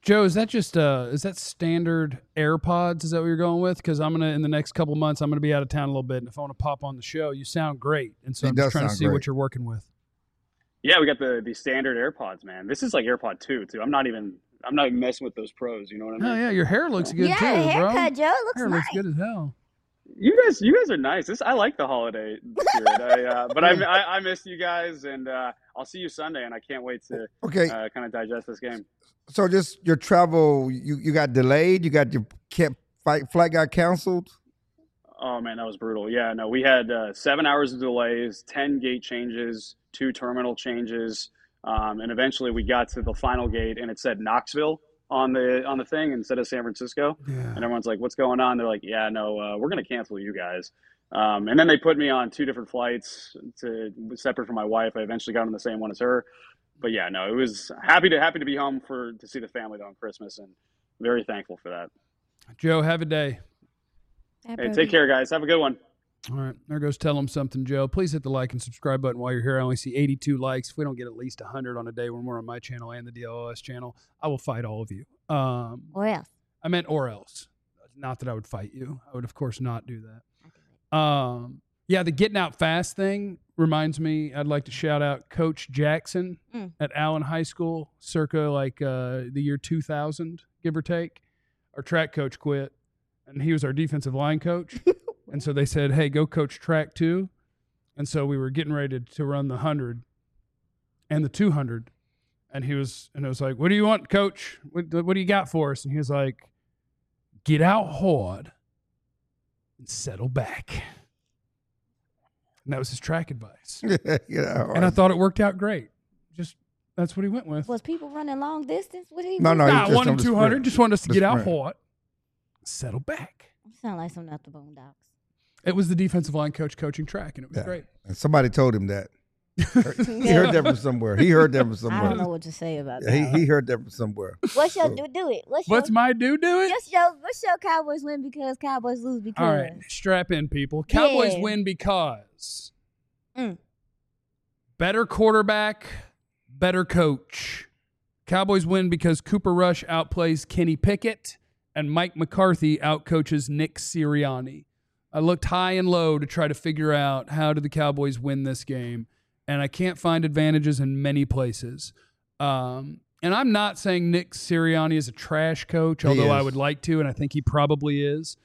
Speaker 1: Joe, is that just uh, is that standard AirPods? Is that what you're going with? Because I'm gonna in the next couple months I'm gonna be out of town a little bit, and if I want to pop on the show, you sound great, and so
Speaker 3: He
Speaker 1: I'm just
Speaker 3: does
Speaker 1: trying to
Speaker 3: sound
Speaker 1: see
Speaker 3: great.
Speaker 1: what you're working with.
Speaker 5: Yeah, we got the the standard AirPods, man. This is like AirPod two too. I'm not even I'm not even messing with those pros. You know what I mean?
Speaker 1: Oh yeah, your hair looks good
Speaker 4: yeah,
Speaker 1: too,
Speaker 4: haircut,
Speaker 1: bro.
Speaker 4: Joe. It looks
Speaker 1: Hair
Speaker 4: nice.
Speaker 1: looks good as hell.
Speaker 5: You guys, you guys are nice. This I like the holiday spirit. I, uh, but I, I I missed you guys, and uh, I'll see you Sunday, and I can't wait to
Speaker 3: Okay,
Speaker 5: uh, kind of digest this game.
Speaker 3: so just your travel, you, you got delayed. You got your can't fight flight got canceled.
Speaker 5: Oh man, that was brutal. Yeah, no, we had uh, seven hours of delays, ten gate changes, two terminal changes, um, and eventually we got to the final gate, and it said Knoxville on the on the thing instead of San Francisco.
Speaker 1: Yeah.
Speaker 5: And everyone's like, "What's going on?" They're like, "Yeah, no, uh, we're going to cancel you guys." Um, and then they put me on two different flights to separate from my wife. I eventually got on the same one as her. But yeah, no, it was happy to happy to be home for to see the family though on Christmas, and very thankful for that.
Speaker 1: Joe, have a day.
Speaker 5: Hey, take care, guys. Have a good one.
Speaker 1: All right, there goes tell them something, Joe. Please hit the like and subscribe button while you're here. I only see eighty-two likes. If we don't get at least one hundred on a day when we're on my channel and the D L O S channel, I will fight all of you. Um,
Speaker 4: Or else.
Speaker 1: I meant or else. Not that I would fight you. I would, of course, not do that. Um, yeah, the getting out fast thing reminds me, I'd like to shout out Coach Jackson
Speaker 4: Mm.
Speaker 1: at Allen High School, circa like uh, the year two thousand, give or take. Our track coach quit, and he was our defensive line coach. And so they said, hey, go coach track too. And so we were getting ready to, to run the one hundred and the two hundred. And he was, and it was like, what do you want, coach? What, what do you got for us? And he was like, get out hard and settle back. And that was his track advice.
Speaker 3: yeah,
Speaker 1: And I thought it worked out great. Just, that's what he went with.
Speaker 4: Was people running long distance? What he
Speaker 3: No,
Speaker 4: was?
Speaker 3: no, he
Speaker 1: Nah,
Speaker 3: just
Speaker 1: one
Speaker 3: on
Speaker 1: and
Speaker 3: the
Speaker 1: two hundred.
Speaker 3: sprint.
Speaker 1: Just wanted us to
Speaker 3: The
Speaker 1: get out
Speaker 3: sprint.
Speaker 1: hard, settle back.
Speaker 4: You sound like something out the Boondocks.
Speaker 1: It was the defensive line coach coaching track, and it was
Speaker 3: Yeah.
Speaker 1: great.
Speaker 3: And somebody told him that. He heard that from somewhere. He heard that from
Speaker 4: I
Speaker 3: somewhere.
Speaker 4: don't know what to say about
Speaker 3: Yeah,
Speaker 4: that.
Speaker 3: he, he heard that from somewhere.
Speaker 4: What's your
Speaker 3: So-
Speaker 4: do? Do it. What's,
Speaker 1: What's
Speaker 4: your,
Speaker 1: my do do it?
Speaker 4: What's your What's your Cowboys win because Cowboys lose because?
Speaker 1: All right, strap in, people. Cowboys
Speaker 4: Yeah.
Speaker 1: win because
Speaker 4: Mm.
Speaker 1: better quarterback, better coach. Cowboys win because Cooper Rush outplays Kenny Pickett and Mike McCarthy outcoaches Nick Sirianni. I looked high and low to try to figure out how did the Cowboys win this game, and I can't find advantages in many places. Um, and I'm not saying Nick Sirianni is a trash coach,
Speaker 3: He
Speaker 1: although I
Speaker 3: is.
Speaker 1: would like to, and I think he probably is.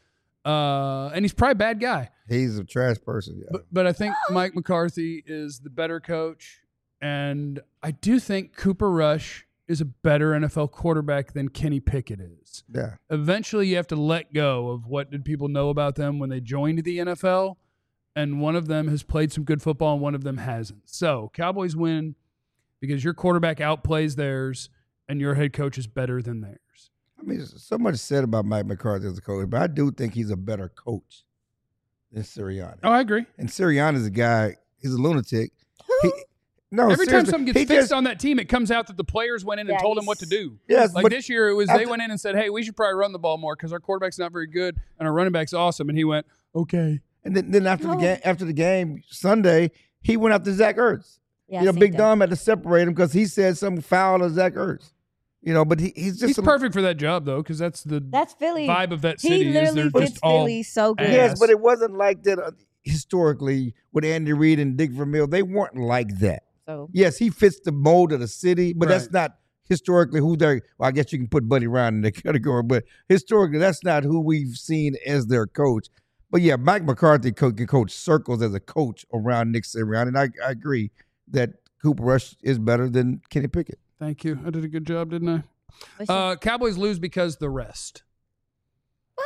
Speaker 1: Uh, and he's probably a bad guy.
Speaker 3: He's a trash person. Yeah.
Speaker 1: But, but I think Mike McCarthy is the better coach. And I do think Cooper Rush is a better N F L quarterback than Kenny Pickett is.
Speaker 3: yeah.
Speaker 1: Eventually, you have to let go of what did people know about them when they joined the N F L. And one of them has played some good football and one of them hasn't. So Cowboys win because your quarterback outplays theirs and your head coach is better than theirs.
Speaker 3: I mean, so much said about Mike McCarthy as a coach, but I do think he's a better coach than Sirianni.
Speaker 1: Oh, I agree.
Speaker 3: And Sirianni is a guy, he's a lunatic. He, no,
Speaker 1: Every time
Speaker 3: seriously,
Speaker 1: something gets
Speaker 3: he
Speaker 1: fixed
Speaker 3: just-
Speaker 1: on that team, it comes out that the players went in and
Speaker 4: Yeah,
Speaker 1: told him what to
Speaker 4: he's-
Speaker 1: do.
Speaker 3: Yes,
Speaker 1: Like
Speaker 3: but
Speaker 1: this year, it was they
Speaker 3: after-
Speaker 1: went in and said, hey, we should probably run the ball more because our quarterback's not very good and our running back's awesome. And he went, okay.
Speaker 3: And then, then after the
Speaker 4: No.
Speaker 3: game, after the game Sunday, he went after Zach Ertz.
Speaker 4: Yeah,
Speaker 3: you know,
Speaker 4: I
Speaker 3: Big
Speaker 4: think that.
Speaker 3: Dom had to separate him because he said something foul to Zach Ertz. You know, but he, he's just
Speaker 1: He's
Speaker 3: a-
Speaker 1: perfect for that job, though, because that's the
Speaker 4: That's Philly.
Speaker 1: vibe of that
Speaker 4: He
Speaker 1: city. Is
Speaker 4: literally
Speaker 1: they're
Speaker 4: fits
Speaker 1: just all
Speaker 4: Philly so good.
Speaker 3: Yes,
Speaker 1: ass.
Speaker 3: but it wasn't like that uh, historically with Andy Reid and Dick Vermeil. They weren't like that.
Speaker 4: So
Speaker 3: Yes, he fits the mold of the city, but that's
Speaker 1: Right.
Speaker 3: not historically who they're. Well, I guess you can put Buddy Ryan in the category, but historically, that's not who we've seen as their coach. But yeah, Mike McCarthy co- can coach circles as a coach around Nick Sirianni, and I, I agree that Cooper Rush is better than Kenny Pickett.
Speaker 1: Thank you. I did a good job, didn't I?
Speaker 4: what's your-
Speaker 1: Uh, Cowboys lose because the rest.
Speaker 4: What?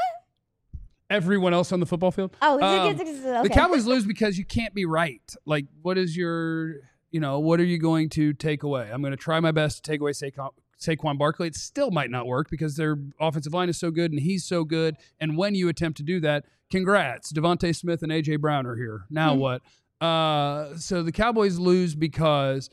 Speaker 1: Everyone else on the football field.
Speaker 4: oh,
Speaker 1: um,
Speaker 4: it's, it's, it's,
Speaker 1: The
Speaker 4: okay.
Speaker 1: Cowboys lose because you can't be right. Like, what is your, you know, what are you going to take away? I'm going to try my best to take away Saquon, Saquon Barkley. It still might not work because their offensive line is so good and he's so good. And when you attempt to do that, congrats. Devontae Smith and A J Brown are here. Now
Speaker 4: Hmm.
Speaker 1: what? Uh, so the Cowboys lose because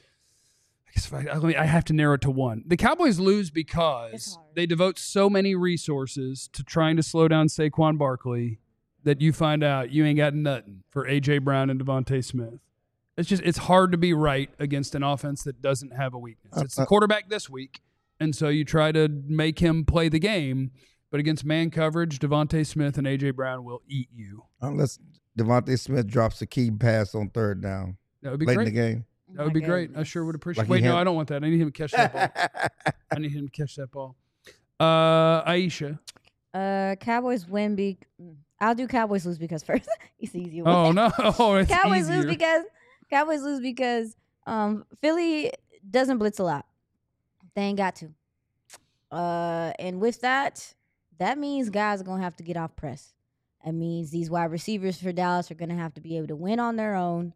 Speaker 1: I guess if I, I, mean, I have to narrow it to one. The Cowboys lose
Speaker 4: It's
Speaker 1: because
Speaker 4: hard.
Speaker 1: they devote so many resources to trying to slow down Saquon Barkley that you find out you ain't got nothing for A J Brown and Devontae Smith. It's just it's hard to be right against an offense that doesn't have a weakness. It's the
Speaker 3: Uh, uh,
Speaker 1: quarterback this week, And so you try to make him play the game. But against man coverage, Devontae Smith and A J. Brown will eat you.
Speaker 3: Unless Devontae Smith drops a key pass on third down
Speaker 1: That would be
Speaker 3: late
Speaker 1: great.
Speaker 3: in the game.
Speaker 1: That would be great. I sure would appreciate
Speaker 3: Like
Speaker 1: it. Wait,
Speaker 3: he
Speaker 1: no,
Speaker 3: had-
Speaker 1: I don't want that. I need him to catch that ball. I need him to catch that ball. Uh, Aisha.
Speaker 4: Uh, Cowboys win. Be I'll do Cowboys lose because first. It's easy. one.
Speaker 1: Oh, no. Oh, it's
Speaker 4: Cowboys
Speaker 1: easier.
Speaker 4: lose because Cowboys lose because um Philly doesn't blitz a lot. They ain't got to. Uh, and with that, that means guys are gonna have to get off press. That means these wide receivers for Dallas are gonna have to be able to win on their own.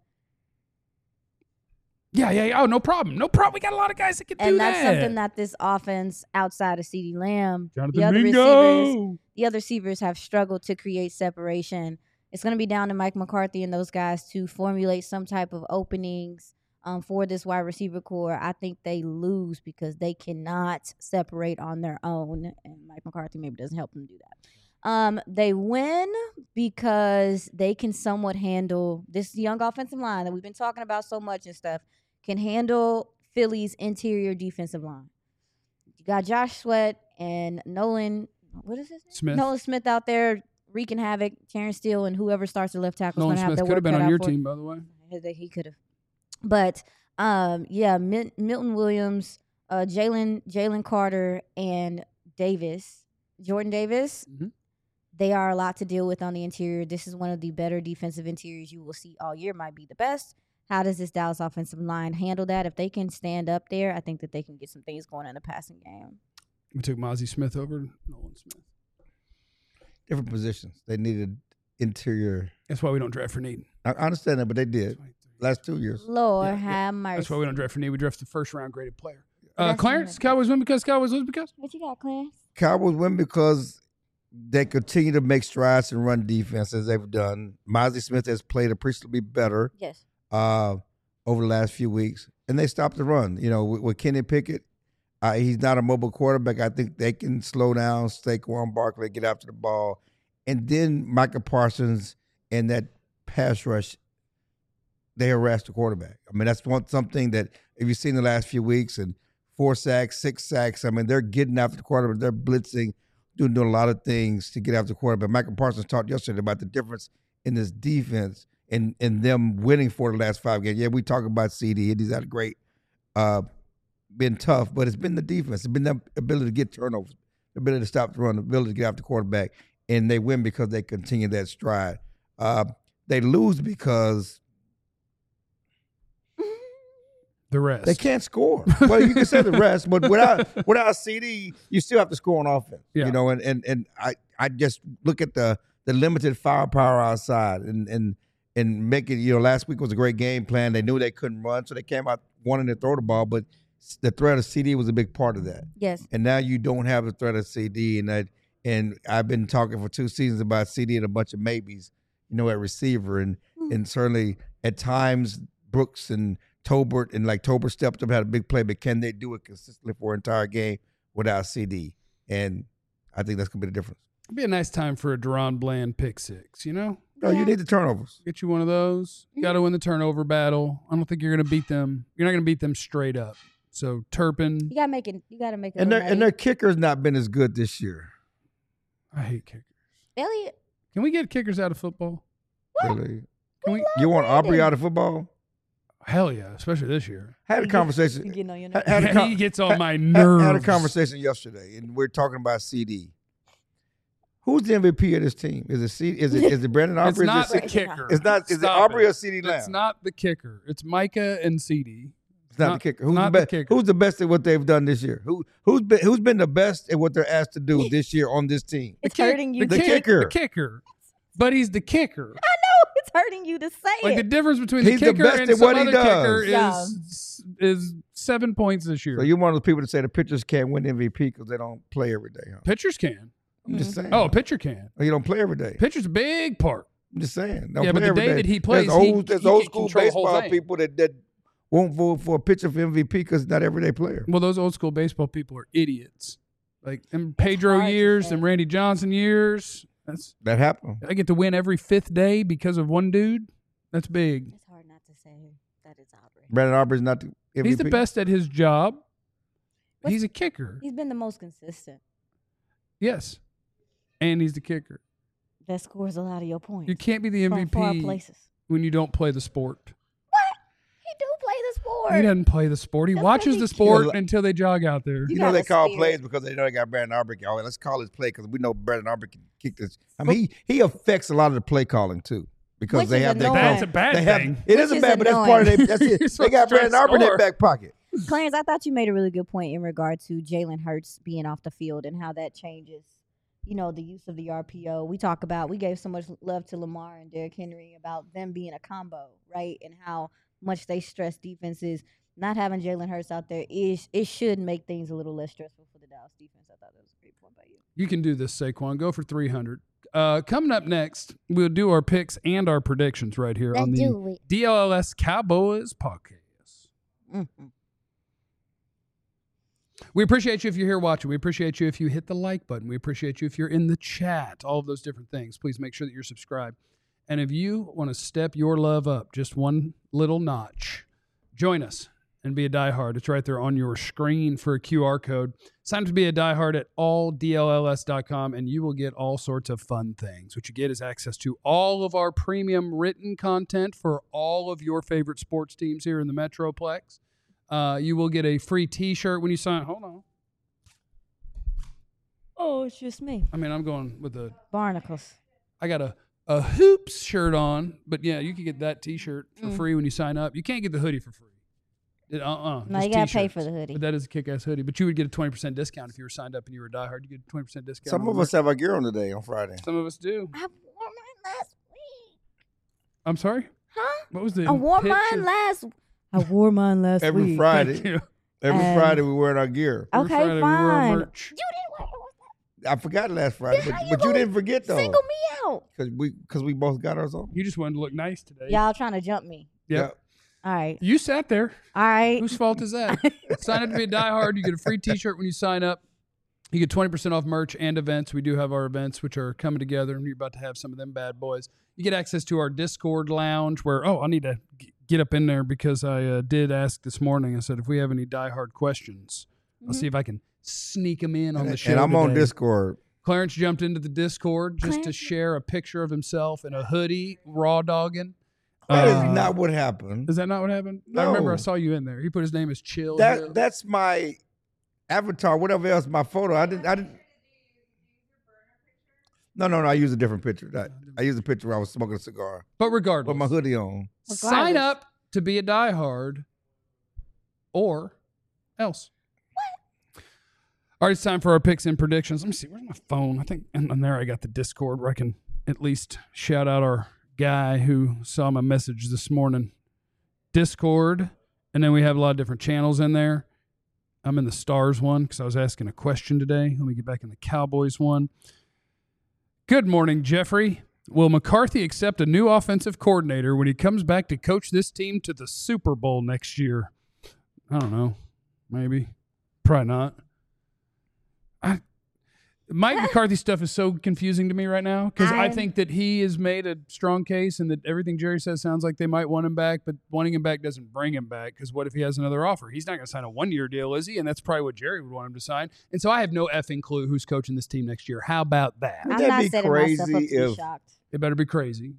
Speaker 1: Yeah, yeah, yeah. Oh, no problem. No problem. We got a lot of guys that can do
Speaker 4: And
Speaker 1: that.
Speaker 4: that's something that this offense outside of CeeDee Lamb,
Speaker 1: Jonathan
Speaker 4: the other
Speaker 1: Mingo.
Speaker 4: receivers, the other receivers have struggled to create separation. It's going to be down to Mike McCarthy and those guys to formulate some type of openings um, for this wide receiver core. I think they lose because they cannot separate on their own, and Mike McCarthy maybe doesn't help them do that. Um, they win because they can somewhat handle this young offensive line that we've been talking about so much and stuff, can handle Philly's interior defensive line. You got Josh Sweat and Nolan, what is his name?
Speaker 1: Smith.
Speaker 4: Nolan Smith out there wreaking havoc. Terrence Steele and whoever starts the left tackle is
Speaker 1: Nolan
Speaker 4: going to have
Speaker 1: Smith
Speaker 4: their
Speaker 1: could
Speaker 4: work
Speaker 1: have been
Speaker 4: cut
Speaker 1: on
Speaker 4: out
Speaker 1: your
Speaker 4: for
Speaker 1: team, by the way.
Speaker 4: him. He could have. But, um, yeah, Mil- Milton Williams, uh, Jalen Jalen Carter, and Davis, Jordan Davis,
Speaker 1: Mhm.
Speaker 4: they are a lot to deal with on the interior. This is one of the better defensive interiors you will see all year, might be the best. How does this Dallas offensive line handle that? If they can stand up there, I think that they can get some things going in the passing game.
Speaker 1: We took Mozzie Smith over Nolan Smith.
Speaker 3: Different positions. They needed interior.
Speaker 1: That's why we don't draft for need.
Speaker 3: I I understand that, but they did last two years.
Speaker 4: Lord
Speaker 1: Yeah, yeah.
Speaker 4: have mercy.
Speaker 1: That's why we don't draft for need. We draft the first round graded player. Uh,
Speaker 4: That's
Speaker 1: Clarence,
Speaker 4: what-
Speaker 1: Cowboys win because Cowboys lose because?
Speaker 4: What you got, Clarence?
Speaker 3: Cowboys win because they continue to make strides and run defense as they've done. Mozzie Smith has played appreciably better
Speaker 4: Yes.
Speaker 3: uh, over the last few weeks, and they stopped the run. You know, with, with Kenny Pickett, uh, he's not a mobile quarterback. I think they can slow down Saquon Barkley, get after the ball, and then Micah Parsons and that pass rush, they harass the quarterback. I mean, that's one something that if you've seen the last few weeks, and four sacks, six sacks, I mean, they're getting after the quarterback. They're blitzing, doing, doing a lot of things to get after the quarterback. Micah Parsons talked yesterday about the difference in this defense and, and them winning for the last five games. Yeah, we talk about C D. He's had a great, uh, been tough, but it's been the defense. It's been the ability to get turnovers, the ability to stop the run, the ability to get after the quarterback, and they win because they continue that stride. Uh, they lose because
Speaker 1: The rest.
Speaker 3: they can't score. Well, you can say the rest, but without without C D, you still have to score on offense.
Speaker 1: Yeah.
Speaker 3: You know, and and and I, I just look at the the limited firepower outside and and and make it. You know, last week was a great game plan. They knew they couldn't run, so they came out wanting to throw the ball, but the threat of C D was a big part of that.
Speaker 4: Yes.
Speaker 3: And now you don't have the threat of C D, and that. And I've been talking for two seasons about C D and a bunch of maybes, you know, at receiver, and
Speaker 4: Mm.
Speaker 3: and certainly at times Brooks and Tolbert and like Tolbert stepped up, had a big play, but can they do it consistently for an entire game without C D? And I think that's gonna be the difference.
Speaker 1: It'd be a nice time for a Deron Bland pick six, you know?
Speaker 3: No, you need the turnovers.
Speaker 1: Get you one of those. You got to win the turnover battle. I don't think you're going to beat them. You're not going to beat them straight up. So Turpin,
Speaker 4: You gotta make it. You gotta make it.
Speaker 3: And their
Speaker 4: look
Speaker 3: and their
Speaker 4: nice.
Speaker 3: kicker's not been as good this year.
Speaker 1: I hate kickers.
Speaker 4: Elliot.
Speaker 1: Can we get kickers out of football?
Speaker 3: Really.
Speaker 1: Can we?
Speaker 3: You want Aubrey
Speaker 4: Brandon.
Speaker 3: out of football?
Speaker 1: Hell yeah, especially this year.
Speaker 3: Had a
Speaker 4: You
Speaker 3: conversation.
Speaker 4: getting on your
Speaker 3: had-
Speaker 4: nerves.
Speaker 3: had a con-
Speaker 1: he gets on
Speaker 3: had-
Speaker 1: my
Speaker 3: had-
Speaker 1: nerves.
Speaker 3: Had a conversation yesterday, and we're talking about C D. Who's the M V P of this team? Is it C? Is it is it Brandon
Speaker 1: It's
Speaker 3: Aubrey?
Speaker 1: not
Speaker 3: is
Speaker 1: the
Speaker 3: it,
Speaker 4: Brandon
Speaker 1: kicker.
Speaker 3: it's not. Is it
Speaker 1: Stop
Speaker 3: Aubrey
Speaker 1: it.
Speaker 3: or C D Lamb?
Speaker 1: It's not the kicker. It's Micah and C D.
Speaker 3: It's not,
Speaker 1: not-
Speaker 3: the kicker. Who's
Speaker 1: not
Speaker 3: the
Speaker 1: the
Speaker 3: best?
Speaker 1: kicker.
Speaker 3: Who's the best at what they've done this year? Who who's been who's been the best at what they're asked to do this year on this team?
Speaker 4: It's
Speaker 1: The kick-
Speaker 4: hurting you.
Speaker 1: The,
Speaker 3: The
Speaker 1: kick-
Speaker 3: kicker.
Speaker 1: The kicker. But he's the kicker.
Speaker 4: I know it's hurting you to say
Speaker 1: Like the
Speaker 4: it.
Speaker 1: difference between the
Speaker 3: He's the
Speaker 1: kicker
Speaker 3: best
Speaker 1: and
Speaker 3: at
Speaker 1: some
Speaker 3: what he
Speaker 1: other
Speaker 3: does.
Speaker 1: kicker
Speaker 4: Yeah.
Speaker 1: is is seven points this year.
Speaker 3: So you're one of those people that say the pitchers can't win M V P because they don't play every day. Huh?
Speaker 1: Pitchers can.
Speaker 3: I'm just saying.
Speaker 1: Oh, a pitcher can.
Speaker 3: you don't play every day.
Speaker 1: Pitcher's a big part.
Speaker 3: I'm just saying. Don't
Speaker 1: Yeah, but
Speaker 3: play
Speaker 1: the
Speaker 3: every
Speaker 1: day
Speaker 3: day.
Speaker 1: that he plays,
Speaker 3: there's
Speaker 1: he-
Speaker 3: old, there's
Speaker 1: he
Speaker 3: old
Speaker 1: can
Speaker 3: school
Speaker 1: control the whole
Speaker 3: baseball
Speaker 1: thing.
Speaker 3: people that that won't vote for a pitcher for M V P because not everyday player.
Speaker 1: Well, those old school baseball people are idiots. Like them Pedro
Speaker 4: hard to
Speaker 1: years,
Speaker 4: say.
Speaker 1: them Randy Johnson years. That's
Speaker 3: That happened.
Speaker 1: I get to win every fifth day because of one dude. That's big.
Speaker 4: It's hard not to say that it's Aubrey.
Speaker 3: Brandon Aubrey's not the M V P.
Speaker 1: He's the best at his job.
Speaker 4: What's-
Speaker 1: He's a kicker.
Speaker 4: He's been the most consistent.
Speaker 1: Yes. And he's the kicker.
Speaker 4: That scores a lot of your points.
Speaker 1: You can't be the M V
Speaker 4: from far
Speaker 1: P
Speaker 4: places.
Speaker 1: when you don't play the sport.
Speaker 4: He do play the sport.
Speaker 1: He doesn't play the sport. He
Speaker 4: That's
Speaker 1: watches
Speaker 4: 'cause
Speaker 1: the
Speaker 4: he
Speaker 1: sport
Speaker 3: kills-
Speaker 1: until they jog out there.
Speaker 3: You
Speaker 4: You
Speaker 3: know
Speaker 4: got
Speaker 3: they
Speaker 4: a
Speaker 3: call
Speaker 4: spirit.
Speaker 3: plays because they know they got Brandon Aubrey. Oh, let's call his play because we know Brandon Aubrey can kick this. I mean, he, he affects a lot of the play calling too because
Speaker 4: Which
Speaker 3: they
Speaker 4: is
Speaker 3: have their
Speaker 4: annoying.
Speaker 1: That's a bad
Speaker 3: they have,
Speaker 1: thing.
Speaker 3: It
Speaker 4: Which
Speaker 3: isn't
Speaker 4: is
Speaker 3: bad, but that's part of
Speaker 4: annoying.
Speaker 3: it. That's it.
Speaker 1: You're
Speaker 3: They got
Speaker 1: supposed to try
Speaker 3: Brandon
Speaker 1: to
Speaker 3: Aubrey in their
Speaker 1: score.
Speaker 3: back pocket.
Speaker 4: Clarence, I thought you made a really good point in regard to Jalen Hurts being off the field and how that changes, you know, the use of the R P O. We talk about, we gave so much love to Lamar and Derrick Henry about them being a combo, right? And how much they stress defenses. Not having Jalen Hurts out there is it should make things a little less stressful for the Dallas defense. I thought that was a great point by you.
Speaker 1: You can do this, Saquon. Go for three hundred. Uh, coming up next, we'll do our picks and our predictions right here on the D L L S Cowboys podcast.
Speaker 4: Mm-hmm.
Speaker 1: We appreciate you if you're here watching. We appreciate you if you hit the like button. We appreciate you if you're in the chat. All of those different things. Please make sure that you're subscribed. And if you want to step your love up just one little notch, join us and be a diehard. It's right there on your screen for a Q R code. Sign up to be a diehard at all D L L S dot com, and you will get all sorts of fun things. What you get is access to all of our premium written content for all of your favorite sports teams here in the Metroplex. Uh, you will get a free T-shirt when you sign. Hold on.
Speaker 4: Oh, it's just me.
Speaker 1: I mean, I'm going with a.
Speaker 4: Barnacles.
Speaker 1: I got a a hoops shirt on, but yeah, you can get that T-shirt for
Speaker 4: Mm.
Speaker 1: free when you sign up. You can't get the hoodie for free. Uh uh
Speaker 4: No, you gotta pay for the hoodie.
Speaker 1: But that is a kick-ass hoodie. But you would get a twenty percent discount if you were signed up and you were a diehard. You get a twenty percent discount.
Speaker 3: Some
Speaker 1: on
Speaker 3: of
Speaker 1: the
Speaker 3: us have our gear on today on Friday.
Speaker 1: Some of us do.
Speaker 4: I wore mine last week.
Speaker 1: I'm sorry.
Speaker 4: Huh?
Speaker 1: What was the?
Speaker 4: I wore
Speaker 1: picture?
Speaker 4: mine last. I wore mine last
Speaker 3: Every
Speaker 4: week.
Speaker 3: Friday,
Speaker 1: Thank you.
Speaker 3: every
Speaker 4: And-
Speaker 3: Friday we wearing our gear.
Speaker 1: Every
Speaker 4: Okay,
Speaker 1: Friday we wore our
Speaker 4: fine.
Speaker 1: merch.
Speaker 4: You didn't wear it.
Speaker 3: I forgot last Friday,
Speaker 4: Then
Speaker 3: but,
Speaker 4: how you
Speaker 3: but you
Speaker 4: gonna
Speaker 3: didn't forget though,
Speaker 4: Single me out.
Speaker 3: because we because we both got ours on.
Speaker 1: You just wanted to look nice today.
Speaker 4: Y'all trying to jump me.
Speaker 1: Yep.
Speaker 4: All right.
Speaker 1: You sat there.
Speaker 4: All right.
Speaker 1: Whose fault is that? Sign up to be a diehard. You get a free T-shirt when you sign up. You get twenty percent off merch and events. We do have our events, which are coming together, and you're about to have some of them bad boys. You get access to our Discord lounge where, oh, I need to g- get up in there because I uh, did ask this morning. I said, if we have any diehard questions, I'll see if I can sneak them in on
Speaker 3: And,
Speaker 1: the show
Speaker 3: and I'm on
Speaker 1: today.
Speaker 3: Discord.
Speaker 1: Clarence jumped into the Discord just to
Speaker 4: Clarence-
Speaker 1: share a picture of himself in a hoodie, raw dogging.
Speaker 3: That
Speaker 1: Uh,
Speaker 3: is not what happened.
Speaker 1: Is that not what happened? I remember I
Speaker 3: No.
Speaker 1: saw you in there. He put his name as Chill.
Speaker 3: That
Speaker 1: Hill.
Speaker 3: that's my avatar. Whatever else, my photo. I didn't. I didn't. No, no, no. I used a different picture. I, I used a picture where I was smoking a cigar
Speaker 1: But regardless,
Speaker 3: with my hoodie on.
Speaker 1: sign
Speaker 4: Regardless.
Speaker 1: up to be a diehard or else. All right, it's time for our picks and predictions. Let me see. Where's my phone? I think and, and there I got the Discord where I can at least shout out our guy who saw my message this morning. Discord. And then we have a lot of different channels in there. I'm in the Stars one because I was asking a question today. Let me get back in the Cowboys one. Good morning, Jeffrey. Will McCarthy accept a new offensive coordinator when he comes back to coach this team to the Super Bowl next year? I don't know. Maybe. Probably not. I, Mike McCarthy stuff is so confusing to me right now because I
Speaker 4: I'm-
Speaker 1: think that he has made a strong case and that everything Jerry says sounds like they might want him back, but wanting him back doesn't bring him back because what if he has another offer? He's not going to sign a one-year deal, is he? And that's probably what Jerry would want him to sign. And so I have no effing clue who's coaching this team next year. How about that?
Speaker 3: Would
Speaker 4: I'm
Speaker 3: that
Speaker 4: not
Speaker 3: be
Speaker 4: setting myself up to
Speaker 3: crazy
Speaker 4: be
Speaker 3: if-
Speaker 4: shocked.
Speaker 1: It better be crazy.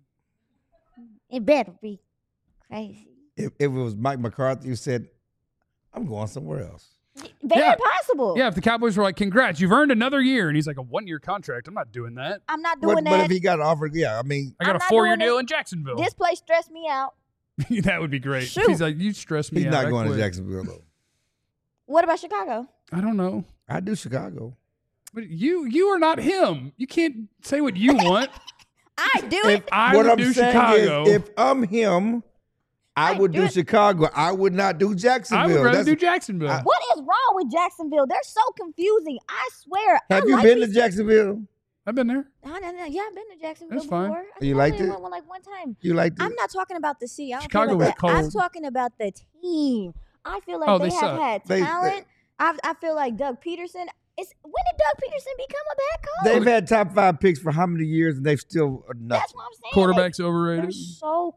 Speaker 4: It better be crazy.
Speaker 3: If, if it was Mike McCarthy who said, "I'm going somewhere else."
Speaker 4: Very
Speaker 1: Yeah.
Speaker 4: possible.
Speaker 1: Yeah, if the Cowboys were like, congrats, you've earned another year. And he's like, a one-year contract. I'm not doing that.
Speaker 4: I'm not doing
Speaker 3: But,
Speaker 4: that.
Speaker 3: but if he got offered, yeah, I mean,
Speaker 1: I got
Speaker 4: I'm
Speaker 1: a
Speaker 4: not
Speaker 1: four-year
Speaker 4: doing
Speaker 1: deal
Speaker 4: this-
Speaker 1: in Jacksonville.
Speaker 4: This place stressed me out.
Speaker 1: That would be great.
Speaker 4: Shoot.
Speaker 1: He's like, you stress me
Speaker 3: he's
Speaker 1: out.
Speaker 3: not
Speaker 1: I
Speaker 3: going to
Speaker 1: quit."
Speaker 3: Jacksonville though.
Speaker 4: What about Chicago?
Speaker 1: I don't know.
Speaker 3: I do Chicago.
Speaker 1: But you you are not him. You can't say what you want.
Speaker 4: I do
Speaker 3: If,
Speaker 4: it.
Speaker 1: I
Speaker 3: what
Speaker 1: would
Speaker 3: I'm
Speaker 1: do
Speaker 3: saying
Speaker 1: Chicago.
Speaker 3: is, if I'm him, I,
Speaker 4: I
Speaker 3: would
Speaker 4: do
Speaker 3: do
Speaker 4: it.
Speaker 3: Chicago. I would not do Jacksonville.
Speaker 1: I would rather
Speaker 3: That's-
Speaker 1: do Jacksonville.
Speaker 3: I-
Speaker 4: What is wrong with Jacksonville? They're so confusing. I swear.
Speaker 3: Have
Speaker 4: I
Speaker 3: you
Speaker 4: like
Speaker 3: been to
Speaker 4: these-
Speaker 3: Jacksonville?
Speaker 1: I've been there.
Speaker 4: No, no, no. Yeah, I've been to Jacksonville
Speaker 1: That's fine.
Speaker 4: before. I
Speaker 3: You
Speaker 4: think I
Speaker 3: liked
Speaker 4: only
Speaker 3: it?
Speaker 4: went one, like one time.
Speaker 3: You like it?
Speaker 4: I'm not talking about the city. I don't
Speaker 1: Chicago
Speaker 4: care
Speaker 1: was
Speaker 4: about that. I'm
Speaker 1: cold.
Speaker 4: talking about the team. I feel like
Speaker 1: Oh,
Speaker 4: they,
Speaker 1: they
Speaker 4: have
Speaker 1: suck.
Speaker 4: had
Speaker 3: They- they-
Speaker 4: talent. I I feel like Doug Peterson. It's when did Doug Peterson become a bad coach?
Speaker 3: They've had top five picks for how many years, and they've still are nothing.
Speaker 4: That's what I'm saying.
Speaker 1: Quarterback's
Speaker 4: They,
Speaker 1: overrated.
Speaker 4: they're so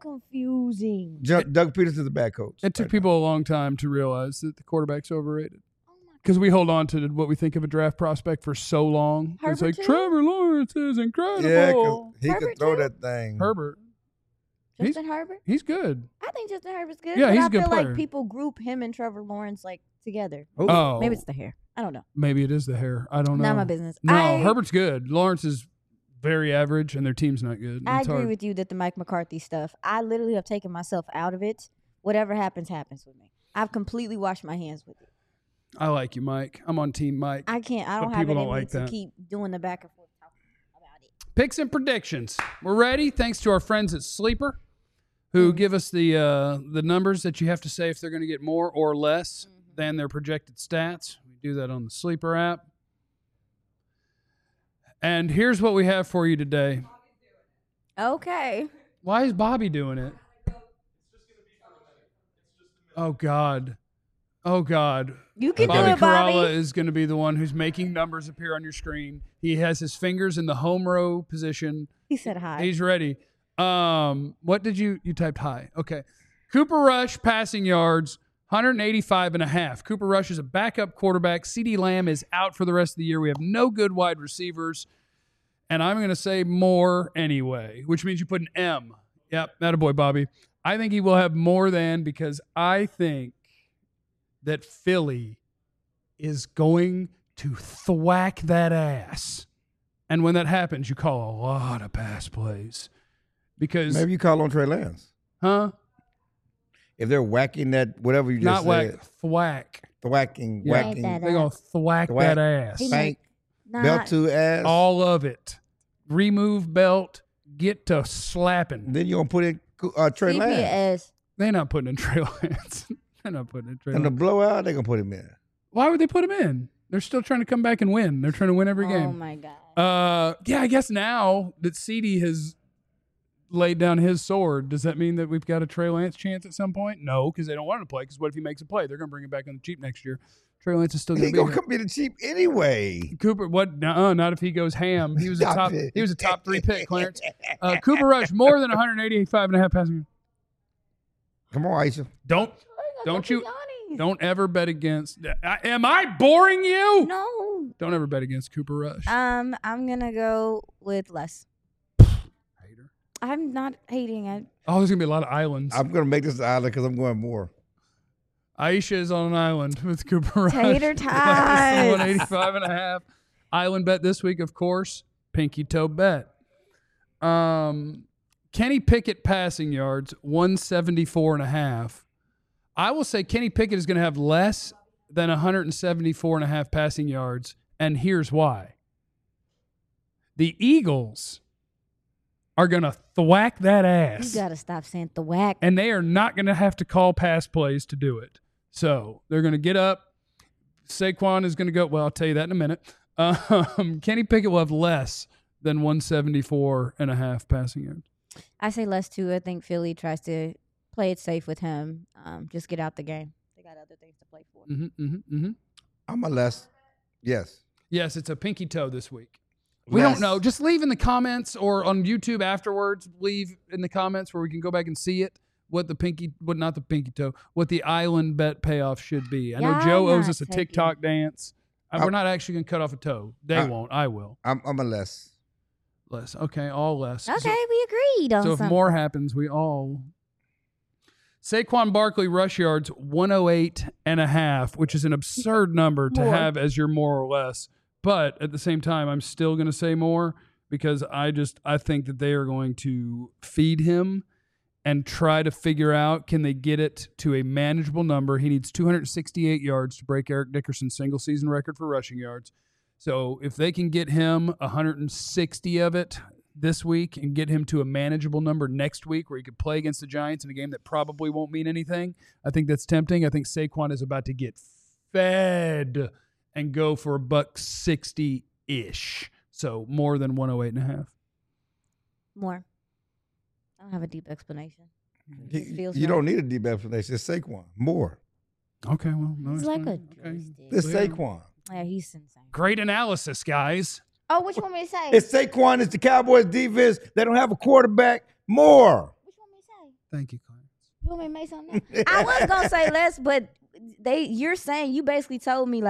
Speaker 4: confusing.
Speaker 3: Ju- Doug Peterson's a bad coach.
Speaker 1: It took
Speaker 3: right
Speaker 1: people a long time to realize that the quarterback's overrated.
Speaker 4: Oh my
Speaker 1: because we hold on to what we think of a draft prospect for so long.
Speaker 4: Herbert
Speaker 1: it's like
Speaker 4: too?
Speaker 1: Trevor Lawrence is incredible.
Speaker 3: Yeah, 'cause he
Speaker 4: Herbert
Speaker 3: could throw
Speaker 4: too?
Speaker 3: that thing.
Speaker 1: Herbert, He's-
Speaker 4: Justin Herbert.
Speaker 1: he's good.
Speaker 4: I think Justin Herbert's good.
Speaker 1: Yeah,
Speaker 4: but
Speaker 1: he's
Speaker 4: I
Speaker 1: a good
Speaker 4: feel
Speaker 1: player.
Speaker 4: like people group him and Trevor Lawrence like together.
Speaker 3: Who?
Speaker 1: Oh,
Speaker 4: Maybe it's the hair. I don't know.
Speaker 1: maybe it is the hair. I don't know.
Speaker 4: Not my business.
Speaker 1: No,
Speaker 4: I,
Speaker 1: Herbert's good. Lawrence is very average, and their team's not good.
Speaker 4: I
Speaker 1: It's
Speaker 4: agree
Speaker 1: hard.
Speaker 4: with you that the Mike McCarthy stuff. I literally have taken myself out of it. Whatever happens, happens with me. I've completely washed my hands with it.
Speaker 1: I like you, Mike. I'm on Team Mike.
Speaker 4: I can't. I
Speaker 1: But
Speaker 4: don't have it
Speaker 1: people
Speaker 4: in
Speaker 1: don't
Speaker 4: me
Speaker 1: like
Speaker 4: to
Speaker 1: that.
Speaker 4: keep doing the back and forth talking about it.
Speaker 1: Picks and predictions. We're ready. Thanks to our friends at Sleeper, who
Speaker 4: Mm.
Speaker 1: give us the uh, the numbers that you have to say if they're going to get more or less
Speaker 4: Mhm.
Speaker 1: than their projected stats. We do that on the Sleeper app. And here's what we have for you today.
Speaker 4: Okay.
Speaker 1: Why is Bobby doing it? Oh God. Oh God.
Speaker 4: You can
Speaker 1: Bobby
Speaker 4: do it, Bobby.
Speaker 1: Caralla is going to be the one who's making numbers appear on your screen. He has his fingers in the home row position.
Speaker 4: He said hi.
Speaker 1: He's ready. Um, what did you you typed high? Okay. Cooper Rush passing yards one eighty-five and a half. Cooper Rush is a backup quarterback. CeeDee Lamb is out for the rest of the year. We have no good wide receivers. And I'm going to say more anyway, which means you put an M. Yep, that a boy, Bobby. I think he will have more than because I think that Philly is going to thwack that ass. And when that happens, you call a lot of pass plays. Because,
Speaker 3: Maybe you call on Trey Lance.
Speaker 1: huh?
Speaker 3: If they're whacking that, whatever you
Speaker 1: Not
Speaker 3: just
Speaker 1: whack,
Speaker 3: said.
Speaker 1: thwack.
Speaker 3: Thwacking,
Speaker 1: Yeah.
Speaker 3: whacking,
Speaker 4: That
Speaker 1: They're going to thwack
Speaker 3: Thwack.
Speaker 1: that ass.
Speaker 4: He
Speaker 3: spank,
Speaker 4: Nah,
Speaker 3: belt to ass.
Speaker 1: All of it. Remove belt, get to slapping.
Speaker 3: Then you're going to put in uh, Trey
Speaker 4: C P
Speaker 3: Lance.
Speaker 4: S.
Speaker 1: They're not putting in Trey Lance. They're not putting in Trey
Speaker 3: And the
Speaker 1: Lance.
Speaker 3: blowout, they're going to put him in.
Speaker 1: Why would they put him in? They're still trying to come back and win. They're trying to win every
Speaker 4: Oh
Speaker 1: game.
Speaker 4: my god.
Speaker 1: Uh, yeah, I guess now that CeeDee has laid down his sword, does that mean that we've got a Trey Lance chance at some point? No, because they don't want him to play. Because what if he makes a play? They're going to bring him back on the cheap next year. Trey Lance is still
Speaker 3: He
Speaker 1: going to
Speaker 3: going
Speaker 1: be
Speaker 3: to
Speaker 1: here.
Speaker 3: come be the cheap anyway.
Speaker 1: Cooper, what? Nuh-uh, not if he goes ham. He was a
Speaker 3: Stop
Speaker 1: top.
Speaker 3: it.
Speaker 1: He was a top three pick, Clarence. Uh, Cooper Rush more than one eighty-five and a half passing.
Speaker 3: Come on, Aisha.
Speaker 1: Don't don't you don't ever bet against. I, am I boring you?
Speaker 4: No.
Speaker 1: Don't ever bet against Cooper Rush.
Speaker 4: Um, I'm gonna go with less.
Speaker 1: Hater.
Speaker 4: I'm not hating. I
Speaker 1: Oh, there's gonna be a lot of islands.
Speaker 3: I'm going to make this an island because I'm going more.
Speaker 1: Aisha is on an island with Cooper Rush.
Speaker 4: Tater tots.
Speaker 1: one eighty-five and a half. Island bet this week, of course. Pinky toe bet. Um, Kenny Pickett passing yards, one seventy-four and a half. I will say Kenny Pickett is going to have less than one seventy-four and a half passing yards, and here's why. The Eagles are going to thwack that
Speaker 4: you
Speaker 1: ass,
Speaker 4: gotta stop saying the whack.
Speaker 1: and they are not going to have to call pass plays to do it. So they're going to get up. Saquon is going to go. Well, I'll tell you that in a minute. Um, Kenny Pickett will have less than one seventy-four and a half passing yards.
Speaker 4: I say less too. I think Philly tries to play it safe with him. Um, just get out the game. They got other things to play for.
Speaker 1: Mm-hmm, mm-hmm, mm-hmm.
Speaker 3: I'm a less. Yes.
Speaker 1: Yes, it's a pinky toe this week. We
Speaker 3: Less.
Speaker 1: don't know. Just leave in the comments or on YouTube afterwards. Leave in the comments where we can go back and see it. What the pinky, what not the pinky toe, what the island bet payoff should be. I know
Speaker 4: Y'all
Speaker 1: Joe owes
Speaker 4: not
Speaker 1: us a
Speaker 4: taking-
Speaker 1: TikTok dance. Uh,
Speaker 3: I-
Speaker 1: we're not actually going to cut off a toe. They
Speaker 3: I-
Speaker 1: won't. I will.
Speaker 3: I'm, I'm a less.
Speaker 1: Less. Okay, all less. So-
Speaker 4: Okay, we agreed on
Speaker 1: So if
Speaker 4: something.
Speaker 1: more happens, we all. Saquon Barkley rush yards one oh eight and a half, which is an absurd number to
Speaker 4: More.
Speaker 1: have as your more or less. But at the same time, I'm still going to say more because I just I think that they are going to feed him and try to figure out can they get it to a manageable number. He needs two hundred sixty-eight yards to break Eric Dickerson's single season record for rushing yards. So if they can get him one hundred sixty of it this week and get him to a manageable number next week where he could play against the Giants in a game that probably won't mean anything, I think that's tempting. I think Saquon is about to get fed and go for a buck sixty-ish. So more than one oh eight and a half.
Speaker 4: More. I don't have a deep explanation.
Speaker 3: You,
Speaker 4: It feels
Speaker 3: you
Speaker 4: right.
Speaker 3: don't need a deep explanation. It's Saquon. More.
Speaker 1: Okay, well, no,
Speaker 4: He's
Speaker 1: it's
Speaker 4: like
Speaker 1: fine.
Speaker 4: a
Speaker 1: Okay.
Speaker 4: joystick.
Speaker 3: It's
Speaker 1: Yeah.
Speaker 3: Saquon.
Speaker 4: Yeah, he's insane.
Speaker 1: Great analysis, guys.
Speaker 4: Oh, what you want me to say?
Speaker 3: It's Saquon. It's the Cowboys defense. They don't have a quarterback. More.
Speaker 4: What you want me to say?
Speaker 1: Thank you, Clarence.
Speaker 4: You want me to make something? Up? I was gonna say less, but they you're saying you basically told me like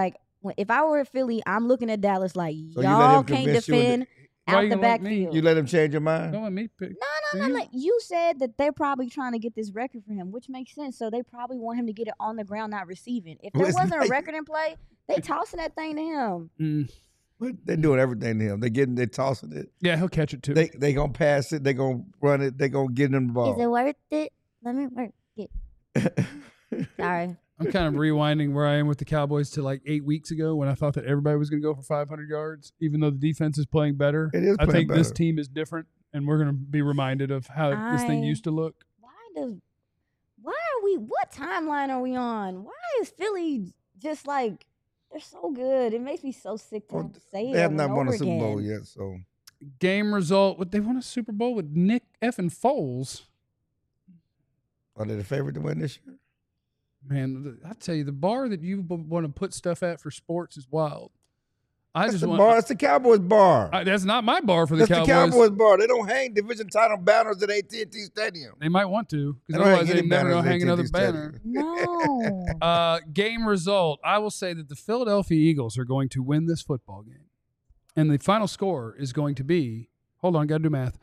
Speaker 4: when, if I were at Philly, I'm looking at Dallas like
Speaker 3: So you let
Speaker 4: y'all
Speaker 3: him
Speaker 4: can't
Speaker 3: convince you into-
Speaker 4: defend
Speaker 1: Why
Speaker 4: out
Speaker 1: you
Speaker 4: the
Speaker 1: gonna let me-
Speaker 4: backfield.
Speaker 3: You let him change your mind?
Speaker 1: Don't let me pick.
Speaker 4: No, no, no, no. You said that they're probably trying to get this record for him, which makes sense. So they probably want him to get it on the ground, not receiving. If there
Speaker 3: What's
Speaker 4: wasn't a
Speaker 3: that?
Speaker 4: record in play, they tossing that thing to him.
Speaker 1: Mm.
Speaker 3: What? They're doing everything to him. They getting, they tossing it.
Speaker 1: Yeah, he'll catch it too.
Speaker 3: They they gonna pass it. They gonna run it. They gonna get him the ball.
Speaker 4: Is it worth it? Let me work it. Sorry.
Speaker 1: I'm kind of rewinding where I am with the Cowboys to like eight weeks ago when I thought that everybody was going to go for five hundred yards, even though the defense is playing better.
Speaker 3: It is
Speaker 1: I
Speaker 3: playing
Speaker 1: think this
Speaker 3: better.
Speaker 1: team is different, and we're going to be reminded of how this thing
Speaker 4: I-
Speaker 1: used to look.
Speaker 4: Why does why are we what timeline are we on? Why is Philly just like they're so good? It makes me so sick to
Speaker 3: Well,
Speaker 4: have to say it.
Speaker 3: They have
Speaker 4: over
Speaker 3: not
Speaker 4: and
Speaker 3: won a
Speaker 4: over
Speaker 3: Super Bowl
Speaker 4: again.
Speaker 3: yet, so
Speaker 1: Game result: what they won a Super Bowl with Nick effing Foles.
Speaker 3: are they the favorite to win this year?
Speaker 1: Man, the, I tell you, the bar that you want to put stuff at for sports is wild. I
Speaker 3: That's
Speaker 1: just
Speaker 3: the
Speaker 1: want.
Speaker 3: bar. That's the Cowboys bar.
Speaker 1: I, that's not my bar for the
Speaker 3: That's
Speaker 1: Cowboys.
Speaker 3: the Cowboys bar. They don't hang division title banners at A T and T Stadium.
Speaker 1: They might want to,
Speaker 3: They
Speaker 1: because
Speaker 3: don't hang
Speaker 1: otherwise they
Speaker 3: any
Speaker 1: never
Speaker 3: banners
Speaker 1: know
Speaker 3: at
Speaker 1: hang another
Speaker 3: A T and T
Speaker 1: banner.
Speaker 3: Stadium.
Speaker 4: No.
Speaker 1: Uh, game result. I will say that the Philadelphia Eagles are going to win this football game. And the final score is going to be, hold on, got to do math.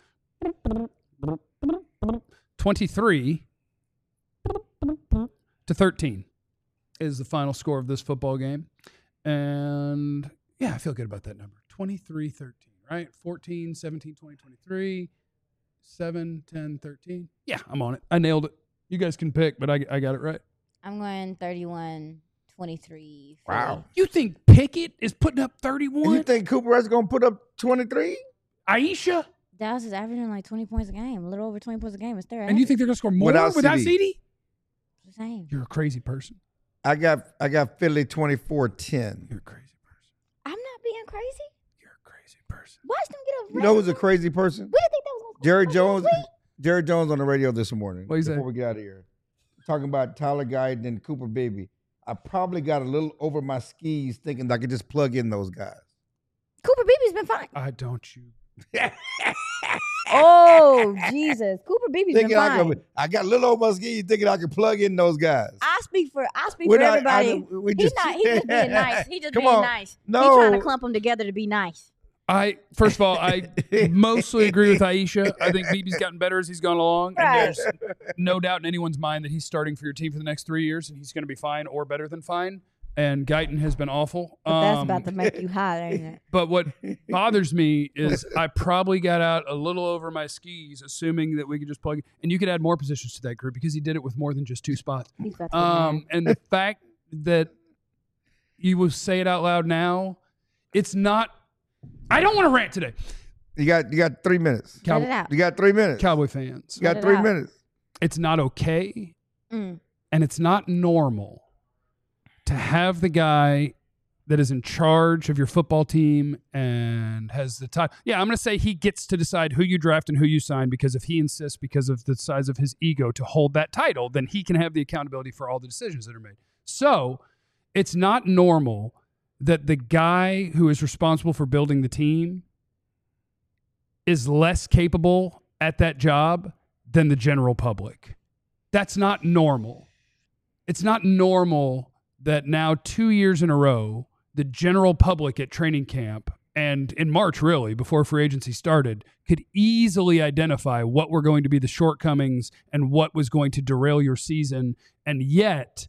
Speaker 1: twenty-three to thirteen is the final score of this football game. And yeah, I feel good about that number. twenty-three thirteen, right? fourteen, seventeen, twenty, twenty-three, seven, ten, thirteen. Yeah, I'm on it. I nailed it. You guys can pick, but I, I got it right.
Speaker 4: I'm going thirty-one twenty-three.
Speaker 3: Wow.
Speaker 1: You think Pickett is putting up
Speaker 3: And
Speaker 1: thirty-one?
Speaker 3: you think Cooper Rush gonna put up twenty-three?
Speaker 1: Aisha?
Speaker 4: Dallas is averaging like twenty points a game, a little over twenty points a game. It's their
Speaker 1: And you think they're going to score more
Speaker 3: Without
Speaker 1: without,
Speaker 3: C D?
Speaker 1: C D?
Speaker 4: the same?
Speaker 1: You're a crazy person.
Speaker 3: I got I got Philly twenty-four ten.
Speaker 1: You're a crazy person.
Speaker 4: I'm not being crazy.
Speaker 1: You're a crazy person.
Speaker 4: Watch them get a
Speaker 3: You know who's a
Speaker 4: record.
Speaker 3: crazy person?
Speaker 4: We didn't think that was gonna
Speaker 3: Jerry
Speaker 4: score
Speaker 3: Jones.
Speaker 4: this week.
Speaker 3: Jerry Jones on the radio this morning.
Speaker 1: What'd he say?
Speaker 3: Before we get out of here, talking about Tyler Guyton and Cooper Beebe. I probably got a little over my skis thinking that I could just plug in those guys.
Speaker 4: Cooper Beebe's been fine.
Speaker 1: I don't you.
Speaker 4: Oh Jesus, Cooper Beebe's been
Speaker 3: Thinking I,
Speaker 4: fine.
Speaker 3: could, I got a little over my skis thinking I could plug in those guys.
Speaker 4: I speak for I speak
Speaker 3: We're
Speaker 4: for
Speaker 3: not- I-
Speaker 4: everybody.
Speaker 3: we
Speaker 4: He's
Speaker 3: just-
Speaker 4: not. He's just being nice. He just
Speaker 3: Come
Speaker 4: being
Speaker 3: on.
Speaker 4: nice.
Speaker 3: No.
Speaker 4: He's trying to clump them together to be nice.
Speaker 1: I first of all, I mostly agree with Aisha. I think Beebe's gotten better as he's gone along,
Speaker 4: Right.
Speaker 1: and there's no doubt in anyone's mind that he's starting for your team for the next three years, and he's going to be fine or better than fine. And Guyton has been awful.
Speaker 4: But that's
Speaker 1: Um,
Speaker 4: about to make you hot, ain't it?
Speaker 1: But what bothers me is I probably got out a little over my skis, assuming that we could just plug. And you could add more positions to that group because he did it with more than just two spots.
Speaker 4: He's about to get
Speaker 1: Um,
Speaker 4: mad.
Speaker 1: and the fact that you will say it out loud now, it's not. I don't want to rant today.
Speaker 3: You got you got three minutes.
Speaker 4: Let it out.
Speaker 3: You got three minutes.
Speaker 1: Cowboy fans,
Speaker 3: You got
Speaker 4: Let it
Speaker 3: three
Speaker 4: out.
Speaker 3: minutes.
Speaker 1: it's not okay,
Speaker 4: Mm.
Speaker 1: and it's not normal to have the guy that is in charge of your football team and has the time. Yeah, I'm going to say he gets to decide who you draft and who you sign, because if he insists, because of the size of his ego, to hold that title, then he can have the accountability for all the decisions that are made. So it's not normal that the guy who is responsible for building the team is less capable at that job than the general public. That's not normal. It's not normal that now two years in a row, the general public at training camp and in March, really, before free agency started, could easily identify what were going to be the shortcomings and what was going to derail your season. And yet,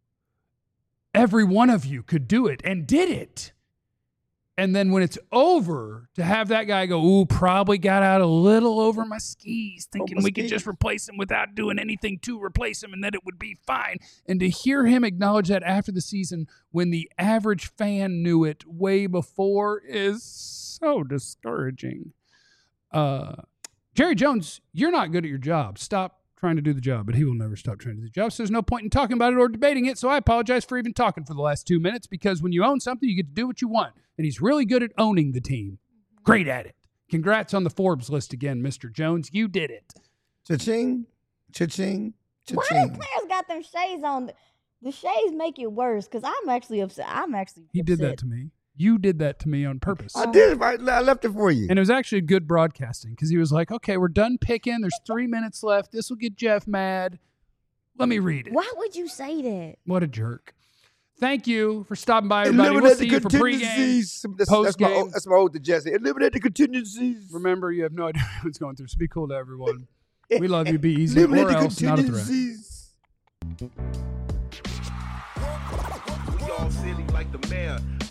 Speaker 1: every one of you could do it and did it. And then when it's over, to have that guy go, ooh, probably got out a little over my skis, thinking
Speaker 3: my
Speaker 1: we could
Speaker 3: skis.
Speaker 1: just replace him without doing anything to replace him and that it would be fine. And to hear him acknowledge that after the season when the average fan knew it way before is so discouraging. Uh, Jerry Jones, you're not good at your job. Stop trying to do the job, but he will never stop trying to do the job. So there's no point in talking about it or debating it. So I apologize for even talking for the last two minutes, because when you own something, you get to do what you want. And he's really good at owning the team. Great at it. Congrats on the Forbes list again, Mister Jones. You did it.
Speaker 3: Cha-ching, cha-ching,
Speaker 4: Why
Speaker 3: cha-ching.
Speaker 4: the players got them shades on? The shades make it worse because I'm actually upset. I'm actually
Speaker 1: He did that
Speaker 4: upset.
Speaker 1: to me. You did that to me on purpose.
Speaker 3: I did. I, I left it for you.
Speaker 1: And it was actually good broadcasting, because he was like, okay, we're done picking. There's three minutes left. This will get Jeff mad. Let me read it.
Speaker 4: Why would you say that?
Speaker 1: What a jerk. Thank you for stopping by, everybody. We'll see you for pregame,
Speaker 3: That's, that's,
Speaker 1: postgame.
Speaker 3: my, that's my ode to Jesse. Eliminate the contingencies.
Speaker 1: Remember, you have no idea what's going through, so be cool to everyone. We love you. Be easy,
Speaker 3: Eliminate
Speaker 1: or
Speaker 3: the
Speaker 1: else not a threat.
Speaker 3: contingencies.
Speaker 6: We all silly like the mayor.